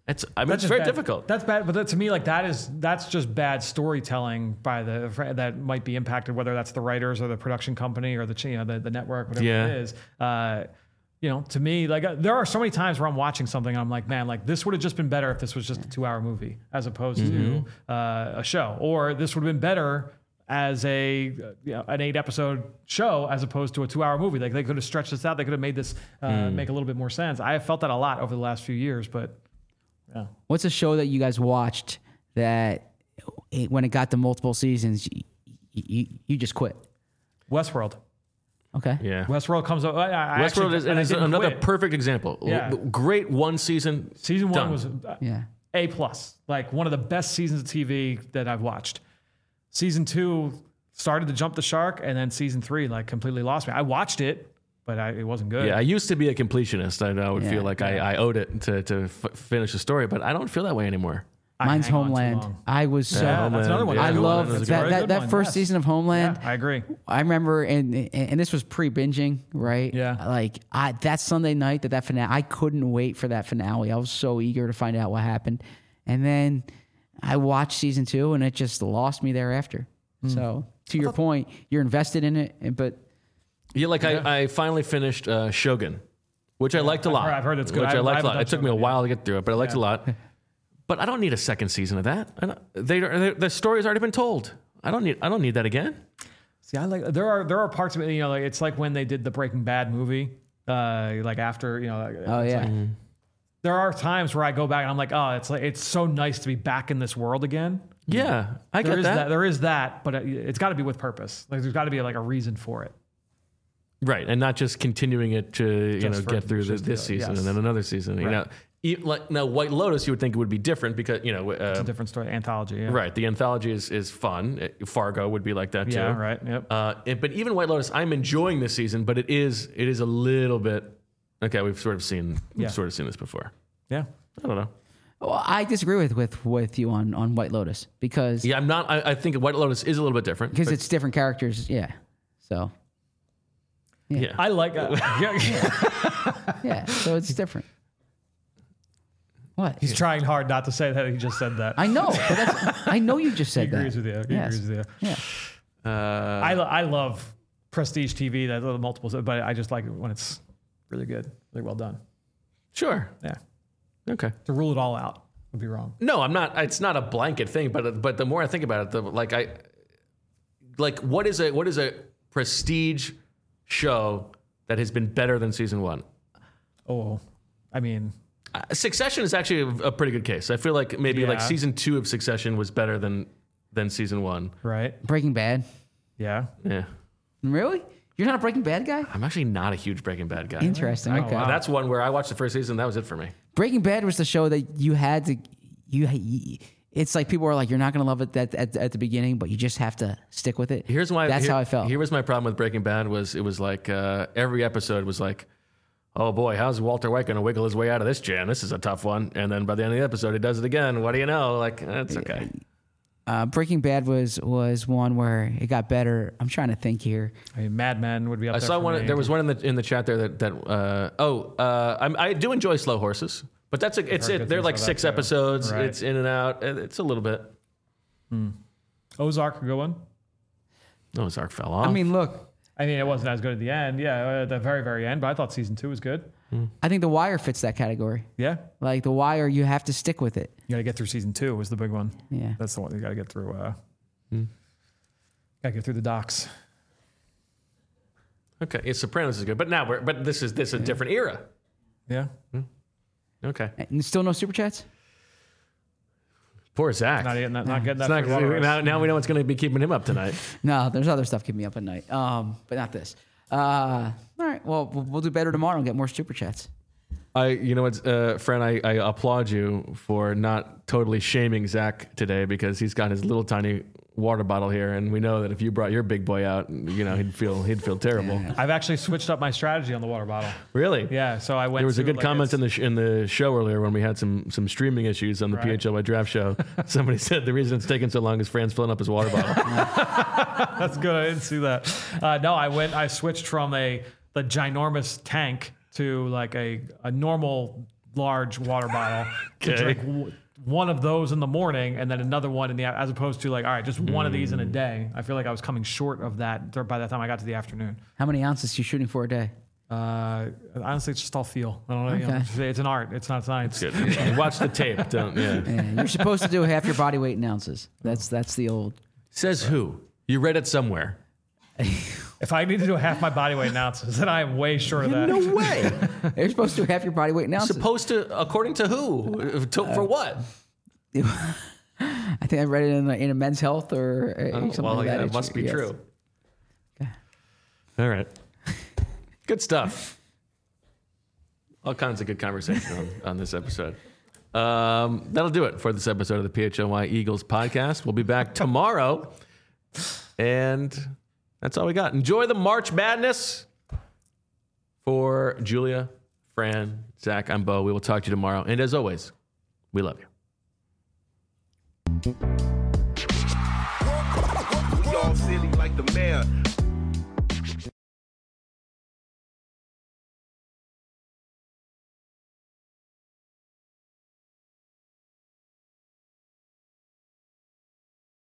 It's I mean That's it's very bad. difficult. That's bad, but that, to me, like that is that's just bad storytelling by the that might be impacted, whether that's the writers or the production company or the you know the, the network, whatever Yeah. it is. Uh, you know, to me, like uh, there are so many times where I'm watching something and I'm like, man, like this would have just been better if this was just a two-hour movie as opposed Mm-hmm. to uh, a show, or this would have been better as a uh, you know, an eight-episode show as opposed to a two-hour movie. Like they could have stretched this out. They could have made this uh, Mm. make a little bit more sense. I have felt that a lot over the last few years, but. Yeah. What's a show that you guys watched that it, when it got to multiple seasons, you, you, you just quit? Westworld. Okay. Yeah. Westworld comes up. I, I Westworld actually, is, and and I is didn't another quit. perfect example. Yeah. Great one season. Season one done. was uh, Yeah. A plus, like one of the best seasons of T V that I've watched. Season two started to jump the shark, and then season three like completely lost me. I watched it, but I, it wasn't good. Yeah, I used to be a completionist. I know I would Yeah. feel like I, I owed it to, to f- finish the story, but I don't feel that way anymore. I Mine's hang on too Homeland. long. I was so. Yeah, that's another one. Yeah, I That's a good love one. That's a that very that, good that one, first yes. season of Homeland. Yeah, I agree. I remember, and and this was pre-binging, right? Yeah. Like I that Sunday night that that finale, I couldn't wait for that finale. I was so eager to find out what happened, and then I watched season two, and it just lost me thereafter. So to your point, you're invested in it, and- but Yeah, like Yeah. I, I finally finished uh, Shogun, which I liked a I've lot. heard- I've heard it's good. Which I I, haven't- I liked a haven't lot. done It took me a Shogun while to get through it, but I liked it Yeah. a lot. But I don't need a second season of that. I don't, they, they, the story's already been told. I don't need. I don't need that again. See, I like there are there are parts of it. You know, like it's like when they did the Breaking Bad movie. Uh, like after you know. oh it's yeah, like- there are times where I go back and I'm like, oh, it's like it's so nice to be back in this world again. Yeah, I There get is that. that. There is that, but it- it's got to be with purpose. Like there's got to be like a reason for it. Right, and not just continuing it to you Just know for- get through this, just this to- season yes. and then another season. You Right. know, e- like now White Lotus, you would think it would be different because you know, uh, It's a different story, anthology. Yeah. right? The anthology is is fun. Uh, Fargo would be like that too. Yeah. Right. Yep. Uh, and- but even White Lotus, I'm enjoying this season, but it is it is a little bit okay. We've sort of seen we've Yeah. sort of seen this before. Yeah. I don't know. well, I disagree with with with you on on White Lotus because Yeah, I'm not. I, I think White Lotus is a little bit different because but- it's different characters. Yeah, so yeah. I like. Uh, yeah. yeah, so it's different. What? He's trying hard not to say that. He just said that. I know, but that's, I know you just He said that. agrees with you. He Yes. agrees with you. Yeah. Uh, I, lo- I love prestige T V, that little multiples, but I just like it when it's really good, really well done. sure. Yeah. Okay. To rule it all out would be wrong. No, I'm not. It's not a blanket thing, but but the more I think about it, the like I like what is a what is a prestige show that has been better than season one? Oh, I mean, Uh, Succession is actually a, a pretty good case. I feel like maybe like Yeah. season two of Succession was better than than season one. right? Breaking Bad. Yeah. Yeah, Really? You're not a Breaking Bad guy? I'm actually not a huge Breaking Bad guy. Interesting. Oh, Okay. wow. That's one where I watched the first season. That was it for me. Breaking Bad was the show that you had to you. It's like people are like, you're not going to love it at, at, at the beginning, but you just have to stick with it. Here's why. That's here- how I felt. Here was my problem with Breaking Bad was it was like uh, every episode was like, oh boy, how's Walter White going to wiggle his way out of this jam? This is a tough one. And then by the end of the episode, he does it again. What do you know? Like that's okay. Uh, Breaking Bad was was one where it got better. I'm trying to think here. I mean, Mad Men would be up I there. saw for one. me. There was one in the in the chat there that that uh, oh uh, I'm, I do enjoy Slow Horses, but that's a, it's heard it. good They're things like about six that, too. episodes. Right. It's in and out. and It's a little bit. Ozark, a good one. Oh, Zark fell off. I mean, look, I mean, it wasn't as good at the end. Yeah, at the very, very end, but I thought season two was good. I think The Wire fits that category. Yeah. Like The Wire, you have to stick with it. You got to get through season two was the big one. Yeah. That's the one you got to get through. Uh, Got to get through the docs. okay, it's Sopranos is good, but now we're but this is this is a different era. Yeah. Okay, And still no super chats? poor Zach. Not, not, not getting It's that. not- free water ice. now, now we know what's going to be keeping him up tonight. No, there's other stuff keeping me up at night. Um, but not this. Uh, all right. Well, we'll we'll do better tomorrow and get more super chats. I, you know what, uh, friend, I, I applaud you for not totally shaming Zach today because he's got his little tiny water bottle here, and we know that if you brought your big boy out, you know he'd feel he'd feel terrible. I've actually switched up my strategy on the water bottle. Really? Yeah, so I went. There was a to, good like, comment it's- in the sh- in the show earlier when we had some some streaming issues on the Right. P H L Y Draft Show. Somebody said the reason it's taking so long is Fran's filling up his water bottle. That's good. I didn't see that. Uh, no, I went. I switched from a the ginormous tank to like a a normal large water bottle to drink w- one of those in the morning and then another one in the as opposed to like all right, just one mm. of these in a day. I feel like I was coming short of that by the time I got to the afternoon. How many ounces are you shooting for a day? Uh, honestly, it's just all feel. I don't know. Okay. You know it's, it's an art. It's not science. Good. Yeah. Watch the tape. Don't. Yeah. yeah. You're supposed to do half your body weight in ounces. That's that's the old. Says who? You read it somewhere. If I need to do half my body weight in ounces, then I am way short of that. No way. You're supposed to do half your body weight in ounces. Supposed to, according to who? To, uh, for what? I think I read it in, in a Men's Health or uh, oh, something well, like yeah, that. It must be yes. true. Okay. All right. Good stuff. All kinds of good conversation on, on this episode. Um, that'll do it for this episode of the P H N Y Eagles podcast. We'll be back tomorrow. And that's all we got. Enjoy the March Madness. For Julia, Fran, Zach, I'm Bo. We will talk to you tomorrow. And as always, we love you. We all silly like the mayor.